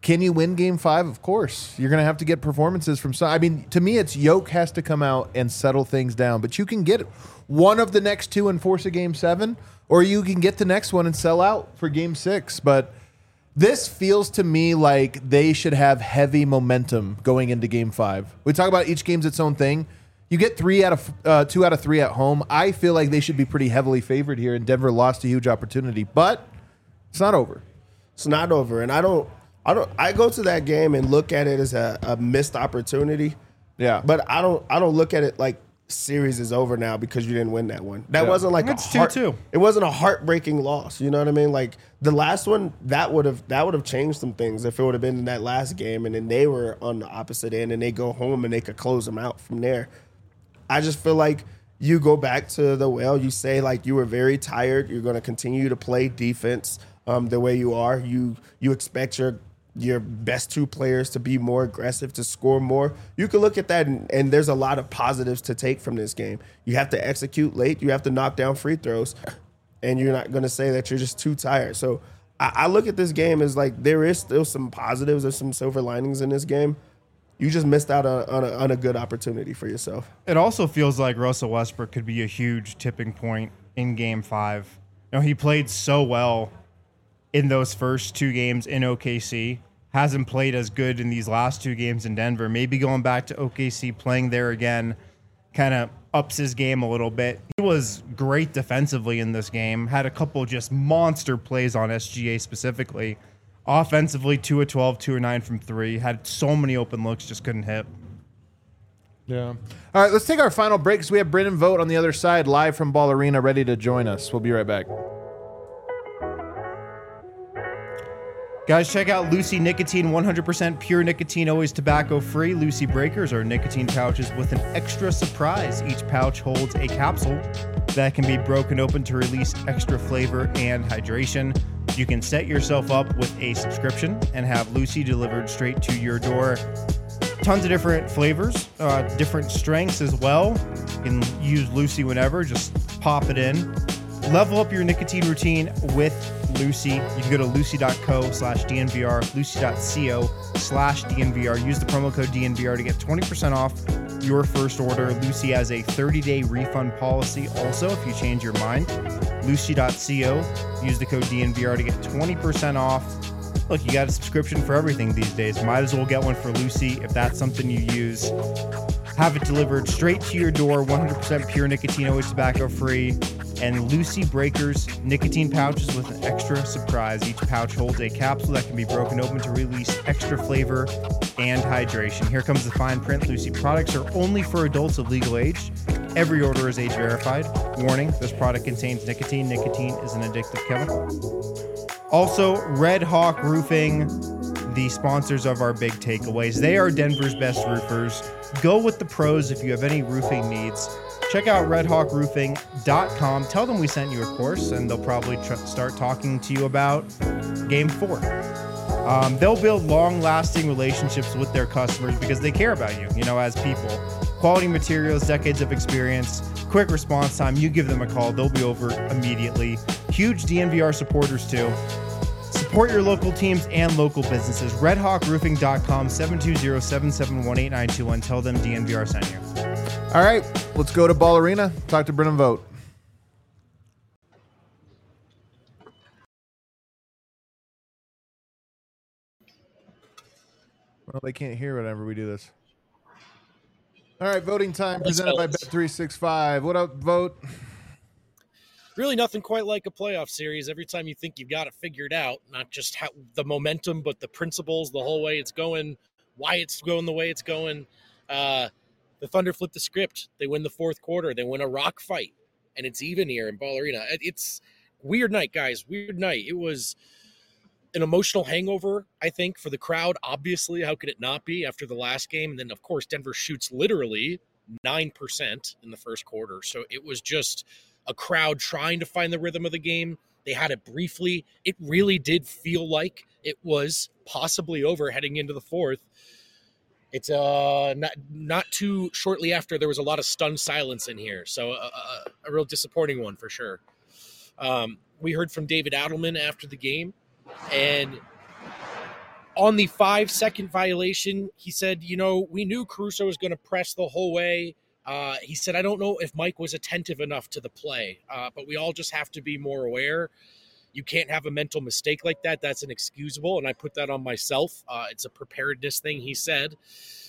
Can you win game five? Of course. You're going to have to get performances from some. I mean, to me, it's Yoke has to come out and settle things down. But you can get one of the next two and force a game seven, or you can get the next one and sell out for game six. But this feels to me like they should have heavy momentum going into game five. We talk about each game's its own thing. You get three out of uh, two out of three at home. I feel like they should be pretty heavily favored here, and Denver lost a huge opportunity. But it's not over. It's not over, and I don't. I don't. I go to that game and look at it as a, a missed opportunity. Yeah, but I don't. I don't look at it like series is over now because you didn't win that one. That yeah. wasn't like it's a heart, two two. It wasn't a heartbreaking loss. You know what I mean? Like the last one, that would have that would have changed some things if it would have been in that last game, and then they were on the opposite end, and they go home and they could close them out from there. I just feel like you go back to the well. You say like you were very tired. You're going to continue to play defense um, the way you are. You you expect your your best two players to be more aggressive, to score more. You can look at that, and, and there's a lot of positives to take from this game. You have to execute late. You have to knock down free throws, and you're not going to say that you're just too tired. So I, I look at this game as like there is still some positives. There's some silver linings in this game. You just missed out on, on, a, on a good opportunity for yourself. It also feels like Russell Westbrook could be a huge tipping point in game five. You know, he played so well in those first two games in O K C. Hasn't played as good in these last two games in Denver. Maybe going back to O K C, playing there again, kind of ups his game a little bit. He was great defensively in this game. Had a couple just monster plays on S G A specifically. Offensively, two of twelve, two of nine from three. Had so many open looks, just couldn't hit. Yeah. All right, let's take our final break because we have Brendan Vogt on the other side, live from Ball Arena, ready to join us. We'll be right back. Guys, check out Lucy Nicotine, one hundred percent pure nicotine, always tobacco-free. Lucy Breakers are nicotine pouches with an extra surprise. Each pouch holds a capsule that can be broken open to release extra flavor and hydration. You can set yourself up with a subscription and have Lucy delivered straight to your door. Tons of different flavors, uh, different strengths as well. You can use Lucy whenever, just pop it in. Level up your nicotine routine with Lucy. You can go to lucy.co slash DNVR, lucy.co slash DNVR. Use the promo code D N V R to get twenty percent off your first order. Lucy has a thirty-day refund policy also if you change your mind. Lucy.co. Use the code D N V R to get twenty percent off. Look, you got a subscription for everything these days. Might as well get one for Lucy if that's something you use. Have it delivered straight to your door, one hundred percent pure nicotine, always tobacco free. And Lucy Breakers nicotine pouches with an extra surprise. Each pouch holds a capsule that can be broken open to release extra flavor and hydration. Here comes the fine print. Lucy products are only for adults of legal age. Every order is age verified. Warning, this product contains nicotine. Nicotine is an addictive chemical. Also, Red Hawk Roofing, the sponsors of our big takeaways. They are Denver's best roofers. Go with the pros if you have any roofing needs. Check out red hawk roofing dot com. Tell them we sent you, of course, and they'll probably tr- start talking to you about game four. Um, they'll build long-lasting relationships with their customers because they care about you, you know, as people. Quality materials, decades of experience, quick response time. You give them a call, they'll be over immediately. Huge D N V R supporters, too. Support your local teams and local businesses. red hawk roofing dot com, seven two zero, seven seven one, eight nine two one. Tell them D N V R sent you. All right, let's go to Ball Arena. Talk to Brendan Vogt. Well, they can't hear whenever we do this. All right, voting time presented by Bet three sixty-five. What up, Vogt? Really nothing quite like a playoff series. Every time you think you've got it figured out, not just how the momentum, but the principles, the whole way it's going, why it's going the way it's going. Uh, the Thunder flip the script. They win the fourth quarter. They win a rock fight, and it's even here in Ball Arena. It's weird night, guys. Weird night. It was an emotional hangover, I think, for the crowd. Obviously, how could it not be after the last game? And then, of course, Denver shoots literally nine percent in the first quarter. So it was just a crowd trying to find the rhythm of the game. They had it briefly. It really did feel like it was possibly over heading into the fourth. It's uh not not too shortly after there was a lot of stunned silence in here. So uh, a, a real disappointing one for sure. Um, we heard from David Adelman after the game, and On the five-second violation, he said, you know, we knew Caruso was going to press the whole way. Uh, he said, I don't know if Mike was attentive enough to the play, uh, but we all just have to be more aware. You can't have a mental mistake like that. That's inexcusable, and I put that on myself. Uh, it's a preparedness thing, he said.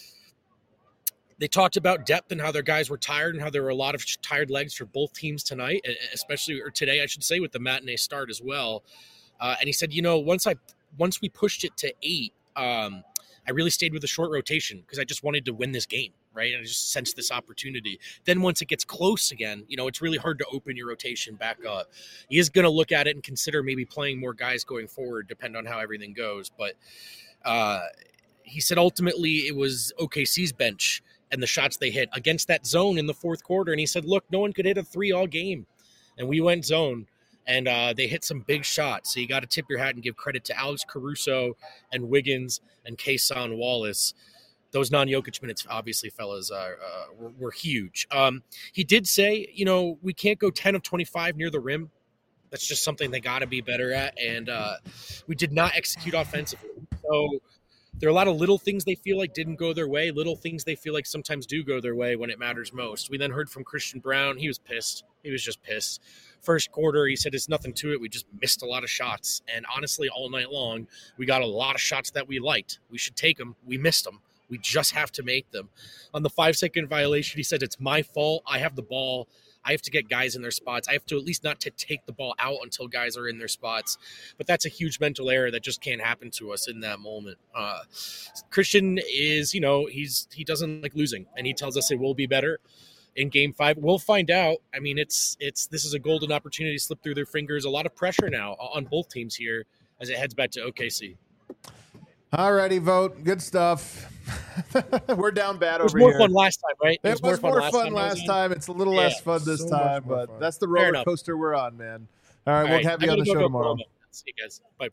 They talked about depth and how their guys were tired and how there were a lot of tired legs for both teams tonight, especially or today, I should say, with the matinee start as well. Uh, and he said, you know, once I once we pushed it to eight, um, I really stayed with a short rotation because I just wanted to win this game, right? And I just sensed this opportunity. Then once it gets close again, you know, it's really hard to open your rotation back up. He is going to look at it and consider maybe playing more guys going forward, depending on how everything goes. But uh, he said ultimately it was O K C's bench and the shots they hit against that zone in the fourth quarter. And he said, look, no one could hit a three all game. And we went zone, and uh, they hit some big shots. So you got to tip your hat and give credit to Alex Caruso and Wiggins and Kason Wallace. Those non-Jokic minutes, obviously, fellas, uh, uh, were, were huge. Um, he did say, you know, we can't go ten of twenty-five near the rim. That's just something they got to be better at. And uh, we did not execute offensively. So there are a lot of little things they feel like didn't go their way, little things they feel like sometimes do go their way when it matters most. We then heard from Christian Brown. He was pissed. He was just pissed. First quarter, he said, there's nothing to it. We just missed a lot of shots. And honestly, all night long, we got a lot of shots that we liked. We should take them. We missed them. We just have to make them. On the five-second violation, he said, it's my fault. I have the ball. I have to get guys in their spots. I have to at least not to take the ball out until guys are in their spots. But that's a huge mental error that just can't happen to us in that moment. Uh, Christian is, you know, he's he doesn't like losing, and he tells us it will be better in game five. We'll find out. I mean, it's it's this is a golden opportunity to slip through their fingers. A lot of pressure now on both teams here as it heads back to O K C. All righty, vote. Good stuff. We're down bad It was over more here. fun last time, right? It, was, more fun last time. last time. time. It's a little Yeah. less fun this So time, much more but fun. that's the Fair roller enough. coaster we're on, man. All right, All we'll right, have I you on gotta the go show to tomorrow. Oklahoma. See you guys. Bye.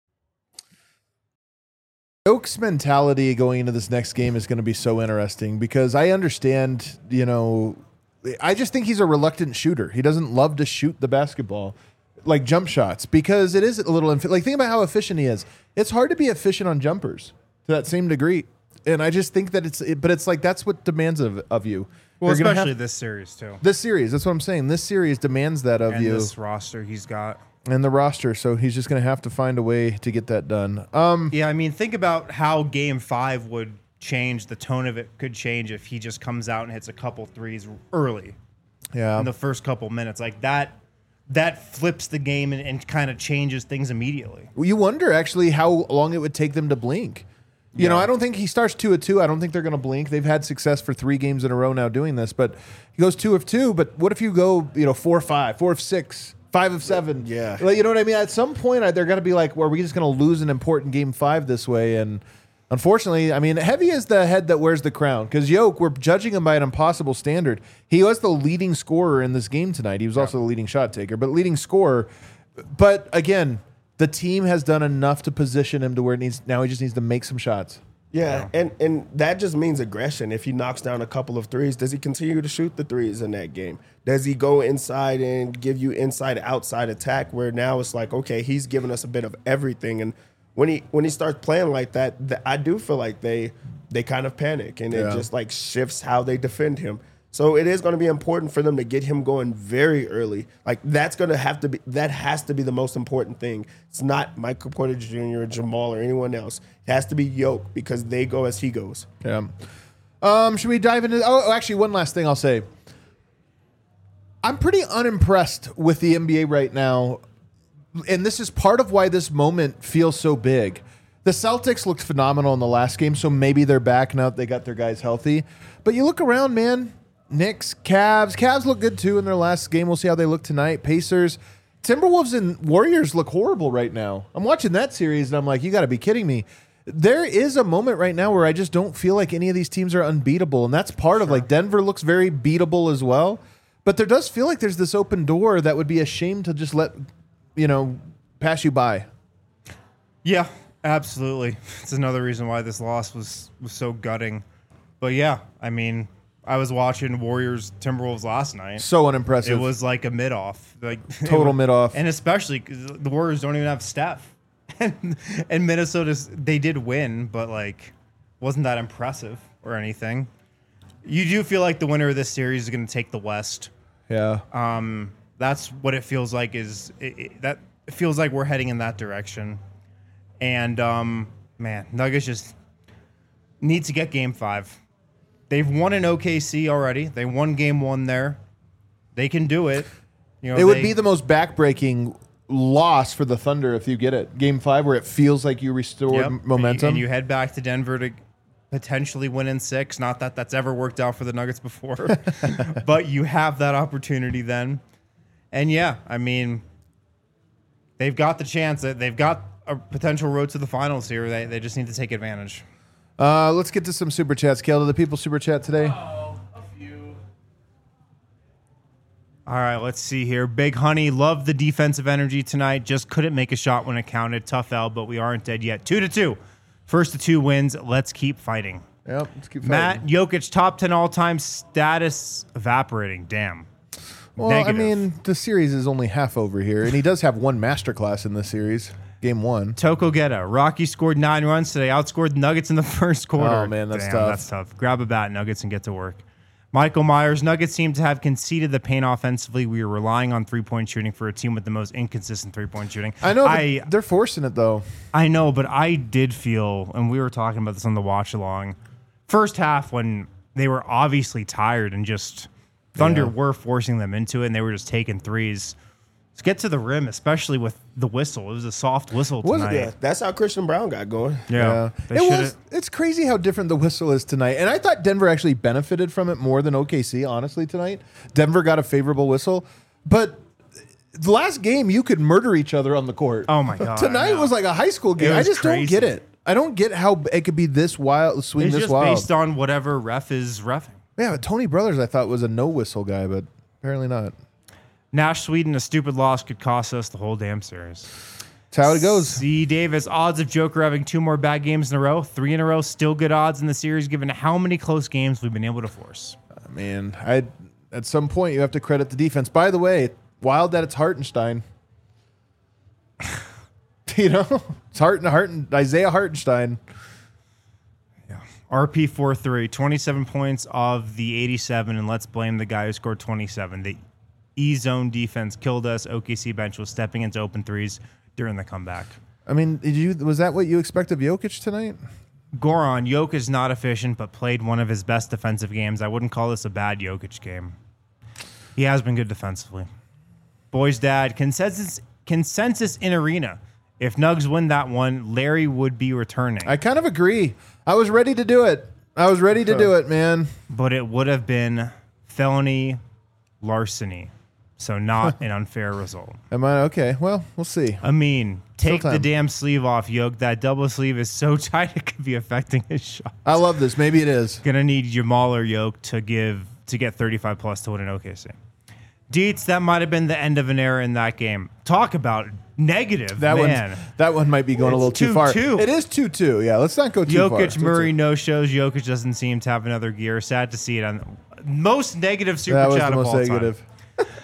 Oak's mentality going into this next game is going to be so interesting because I understand, you know, I just think he's a reluctant shooter. He doesn't love to shoot the basketball, like jump shots, because it is a little, infi- like, think about how efficient he is. It's hard to be efficient on jumpers to that same degree. And I just think that it's, it, but it's like, that's what demands of, of you. Well, You're gonna especially have- this series too. this series. That's what I'm saying. This series demands that of And you. this roster he's got. And the roster, so he's just going to have to find a way to get that done. Um, Yeah, I mean, think about how game five would change. The tone of it could change if he just comes out and hits a couple threes early yeah, in the first couple minutes. Like that, that flips the game and, and kind of changes things immediately. Well, you wonder actually how long it would take them to blink. You Yeah. know, I don't think he starts two of two. I don't think they're going to blink. They've had success for three games in a row now doing this, but he goes two of two. But what if you go, you know, four of five, four of six, five of seven? Yeah. Like, you know what I mean? At some point, I- they're going to be like, well, are we just going to lose an important game five this way? And unfortunately, I mean, Heavy is the head that wears the crown because Yoke, we're judging him by an impossible standard. He was the leading scorer in this game tonight. He was also the leading shot taker, but leading scorer. But again, the team has done enough to position him to where it needs. Now he just needs to make some shots. Yeah, and and that just means aggression. If he knocks down a couple of threes, does he continue to shoot the threes in that game? Does he go inside and give you inside outside attack where now it's like, okay, he's giving us a bit of everything, and when he when he starts playing like that, th- I do feel like they they kind of panic and Yeah. it just like shifts how they defend him. So it is going to be important for them to get him going very early. Like that's going to have to be that has to be the most important thing. It's not Michael Porter Junior or Jamal or anyone else. It has to be Yoke because they go as he goes. Yeah. Um, should we dive into? Oh, actually, one last thing I'll say. I'm pretty unimpressed with the N B A right now, and this is part of why this moment feels so big. The Celtics looked phenomenal in the last game, so maybe they're back now that they got their guys healthy. But you look around, man. Knicks, Cavs. Cavs look good too in their last game. We'll see how they look tonight. Pacers. Timberwolves and Warriors look horrible right now. I'm watching that series, and I'm like, you got to be kidding me. There is a moment right now where I just don't feel like any of these teams are unbeatable, and that's part of like Denver looks very beatable as well. But there does feel like there's this open door that would be a shame to just let, you know, pass you by. Yeah, absolutely. It's another reason why this loss was was so gutting. But yeah, I mean, I was watching Warriors Timberwolves last night. So unimpressive. It was like a mid off, like Total it was- mid-off. and especially because the Warriors don't even have Steph. and, and Minnesota's they did win, but like wasn't that impressive or anything. You do feel like the winner of this series is going to take the West. Yeah. Um, that's what it feels like. Is it, it, that it feels like we're heading in that direction, and um, man, Nuggets just need to get Game Five. They've won in O K C already. They won Game One there. They can do it. You know, it would they, be the most backbreaking loss for the Thunder if you get it. Game five where it feels like you restored yep. m- momentum. And you, and you head back to Denver to potentially win in six. Not that that's ever worked out for the Nuggets before, but you have that opportunity then. And yeah, I mean, they've got the chance. That They've got a potential road to the finals here. They, they just need to take advantage. Uh, let's get to some super chats. Kale, do the people super chat today? Oh, a few. All right, let's see here. Big Honey, loved the defensive energy tonight. Just couldn't make a shot when it counted. Tough L, but we aren't dead yet. Two to two. First to two wins. Let's keep fighting. Yep, let's keep fighting. Matt Jokic, top ten all-time status evaporating. Damn. Well, Negative. I mean, the series is only half over here, and he does have one masterclass in this series. Game one. Toko Geta. Rocky scored nine runs today. Outscored Nuggets in the first quarter. Oh, man, that's Damn, tough. That's tough. Grab a bat, Nuggets, and get to work. Michael Myers. Nuggets seem to have conceded the paint offensively. We are relying on three-point shooting for a team with the most inconsistent three-point shooting. I know, but I, they're forcing it, though. I know, but I did feel, and we were talking about this on the watch-along, first half when they were obviously tired and just Thunder Yeah. were forcing them into it, and they were just taking threes. Let's get to the rim, especially with the whistle. It was a soft whistle Was it? tonight. Yeah, that's how Christian Brown got going. Yeah. They It shoulda- was. It's crazy how different the whistle is tonight. And I thought Denver actually benefited from it more than O K C, honestly, tonight. Denver got a favorable whistle. But the last game, you could murder each other on the court. Oh, my God, I Tonight know. was like a high school game. It I was just don't crazy. get it. I don't get how it could be this wild, swing It's this just wild. based on whatever ref is reffing. Yeah, but Tony Brothers, I thought, was a no whistle guy, but apparently not. Nash Sweden, a stupid loss could cost us the whole damn series. That's how it goes. C. Davis, odds of Joker having two more bad games in a row, three in a row, still good odds in the series given how many close games we've been able to force. I mean, I at some point you have to credit the defense. By the way, wild that it's Hartenstein. You know, it's Harten, Harten, Isaiah Hartenstein. R P four three, twenty-seven points of the eighty-seven, and let's blame the guy who scored twenty-seven. The E-zone defense killed us. O K C bench was stepping into open threes during the comeback. I mean, did you was that what you expect of Jokic tonight? Goran, Jokic is not efficient, but played one of his best defensive games. I wouldn't call this a bad Jokic game. He has been good defensively. Boy's dad, consensus consensus in arena. If Nugs win that one, Larry would be returning. I kind of agree. I was ready to do it. I was ready to do it, man. But it would have been felony larceny. So not an unfair result. Am I okay? Well, we'll see. I mean, take Still the time. damn sleeve off, Yoke. That double sleeve is so tight it could be affecting his shot. I love this. Maybe it is. Gonna need Jamal or Yoke to give to get thirty-five plus to win an O K C. Dietz, that might have been the end of an era in that game. Talk about negative, That man. one. That one might be going a It's little too far. two two. It is two two. Yeah, let's not go too far. Jokic, Murray, no shows. Jokic doesn't seem to have another gear. Sad to see it on most negative super That was chat the of most all negative. time.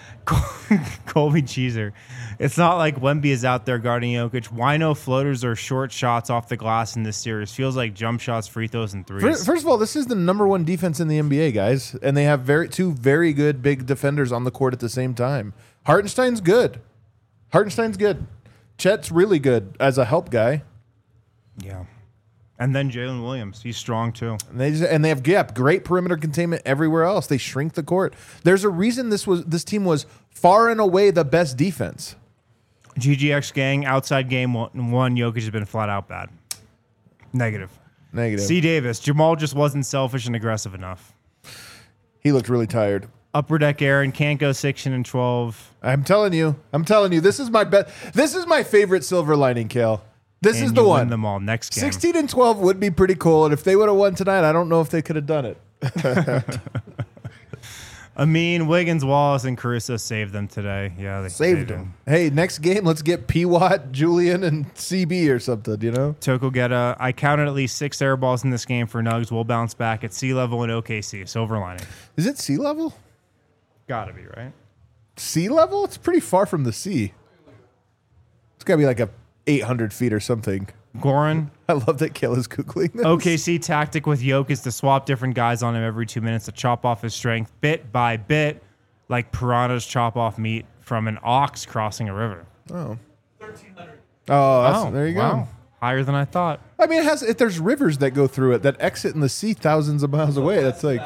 Colby Cheeser. It's not like Wemby is out there guarding Jokic. Why no floaters or short shots off the glass in this series? Feels like jump shots, free throws, and threes. First, first of all, this is the number one defense in the N B A, guys, and they have very two very good big defenders on the court at the same time. Hartenstein's good. Hartenstein's good. Chet's really good as a help guy. Yeah. And then Jalen Williams. He's strong too. And they just, and they have gap, great perimeter containment everywhere else. They shrink the court. There's a reason this was this team was far and away the best defense. G G X gang, outside game one, one Jokic has been flat out bad. Negative. Negative. C. Davis. Jamal just wasn't selfish and aggressive enough. He looked really tired. Upper deck Aaron can't go sixteen and twelve. I'm telling you. I'm telling you. This is my bet. This is my favorite silver lining, Kale. This and is the you one. Win them all next game. sixteen and twelve would be pretty cool. And if they would have won tonight, I don't know if they could have done it. Amin, Wiggins, Wallace, and Caruso saved them today. Yeah, they Saved they him. Hey, next game, let's get P. Watt, Julian, and C B or something, you know? Toko Geta. I counted at least six air balls in this game for Nugs. We'll bounce back at sea level in O K C. Silver lining. Is it sea level? Gotta be, right? Sea level? It's pretty far from the sea. It's got to be like a eight hundred feet or something. Goran. I love that Kale is Googling this. O K C tactic with Jokic is to swap different guys on him every two minutes to chop off his strength bit by bit, like piranhas chop off meat from an ox crossing a river. Oh. Oh, that's, Oh, there you wow. go. Higher than I thought. I mean, it has. If there's rivers that go through it that exit in the sea thousands of miles away, that's like.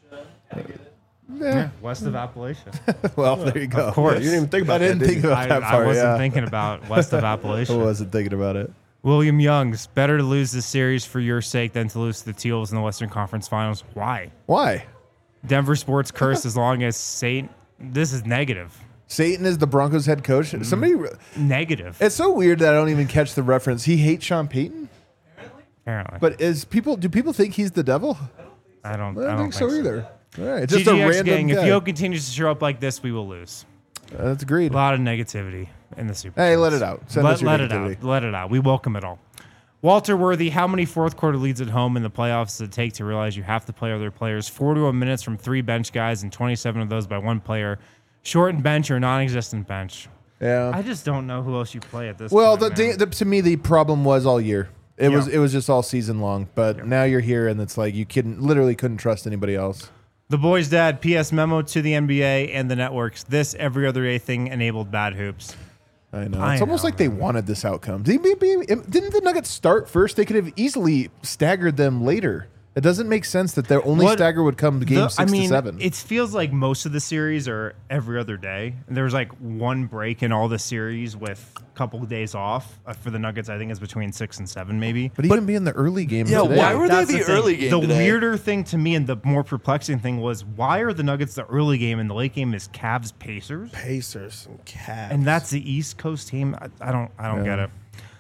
Yeah. West of Appalachia. Well, there you go. Of course. You didn't even think about I didn't that, did think you? about I, that I part. wasn't yeah. thinking about west of I Appalachia. wasn't thinking about it. William Youngs, better to lose this series for your sake than to lose to the Teals in the Western Conference Finals. Why? Why? Denver sports curse as long as Saint. This is negative. Satan is the Broncos head coach. Somebody. Negative. It's so weird that I don't even catch the reference. He hates Sean Payton, Apparently. but is people? Do people think he's the devil? I don't, I I don't, don't think so either. All right, just G G X a random gang, guy. if Yo continues to show up like this, we will lose. Uh, that's agreed. A lot of negativity in the Super Hey, Bowls. let it out. Send Let, us your let it negativity. out. Let it out. We welcome it all. Walter Worthy, how many fourth quarter leads at home in the playoffs does it take to realize you have to play other players? forty-one minutes from three bench guys and twenty-seven of those by one player. Shortened bench or non-existent bench. Yeah. I just don't know who else you play at this Well, point. the, man. the, the, to me, the problem was all year. It Yeah. was it was just all season long. But now you're here, and it's like you couldn't literally couldn't trust anybody else. The boys' dad, P S memo to the N B A and the networks. This every other day thing enabled bad hoops. I know. I It's almost know, like they wanted this outcome. Didn't didn't the Nuggets start first? They could have easily staggered them later. It doesn't make sense that their only What- stagger would come to game The- six I mean, to seven. it feels like most of the series are every other day. And there was like one break in all the series with a couple of days off. Uh, for the Nuggets, I think it's between six and seven, maybe. but even be in the early game. Yeah, today. why were they That's the thing. early game The today? weirder thing to me and the more perplexing thing was why are the Nuggets the early game and the late game is Cavs Pacers? Pacers and Cavs. And that's the East Coast team. I, I don't I don't get it.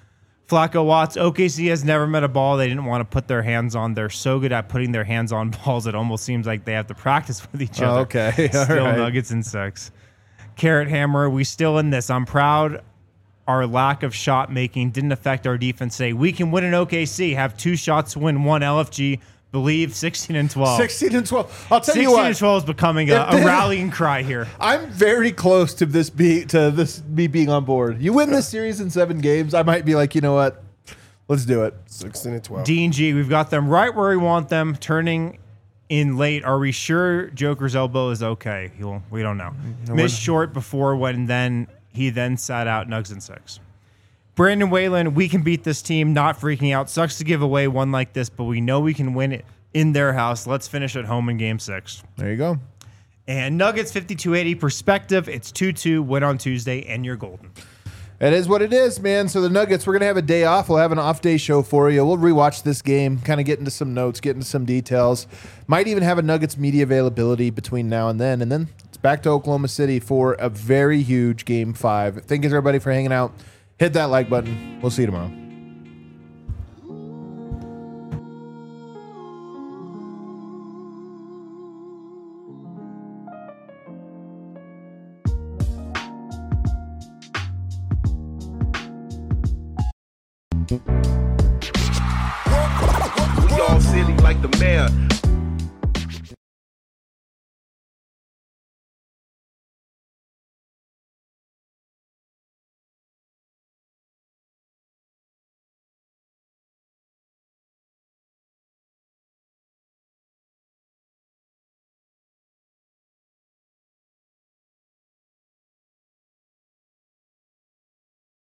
Flacco Watts, O K C has never met a ball they didn't want to put their hands on. They're so good at putting their hands on balls, it almost seems like they have to practice with each Oh, other. okay. All Still right. Nuggets and six. Carrot Hammer, we still in this. I'm proud our lack of shot making didn't affect our defense today. We can win in O K C, have two shots to win one L F G, believe sixteen and twelve. sixteen and twelve. I'll tell you sixteen what. and twelve is becoming a, If a they- rallying cry here. I'm very close to this be to this me being on board. You win this series in seven games, I might be like, you know what? Let's do it. sixteen and twelve. D and G, we've got them right where we want them, turning in late. Are we sure Joker's elbow is okay? He'll, we don't know. Missed short before when then he then sat out Nugs and six. Brandon Whalen, we can beat this team, not freaking out. Sucks to give away one like this, but we know we can win it in their house. Let's finish at home in game six. There you go. And Nuggets fifty-two eighty perspective. It's two two, win on Tuesday, and you're golden. It is what it is, man. So the Nuggets, we're going to have a day off. We'll have an off day show for you. We'll rewatch this game, kind of get into some notes, get into some details. Might even have a Nuggets media availability between now and then. And then it's back to Oklahoma City for a very huge game five. Thank you, everybody, for hanging out. Hit that like button. We'll see you tomorrow. We all silly like the mayor.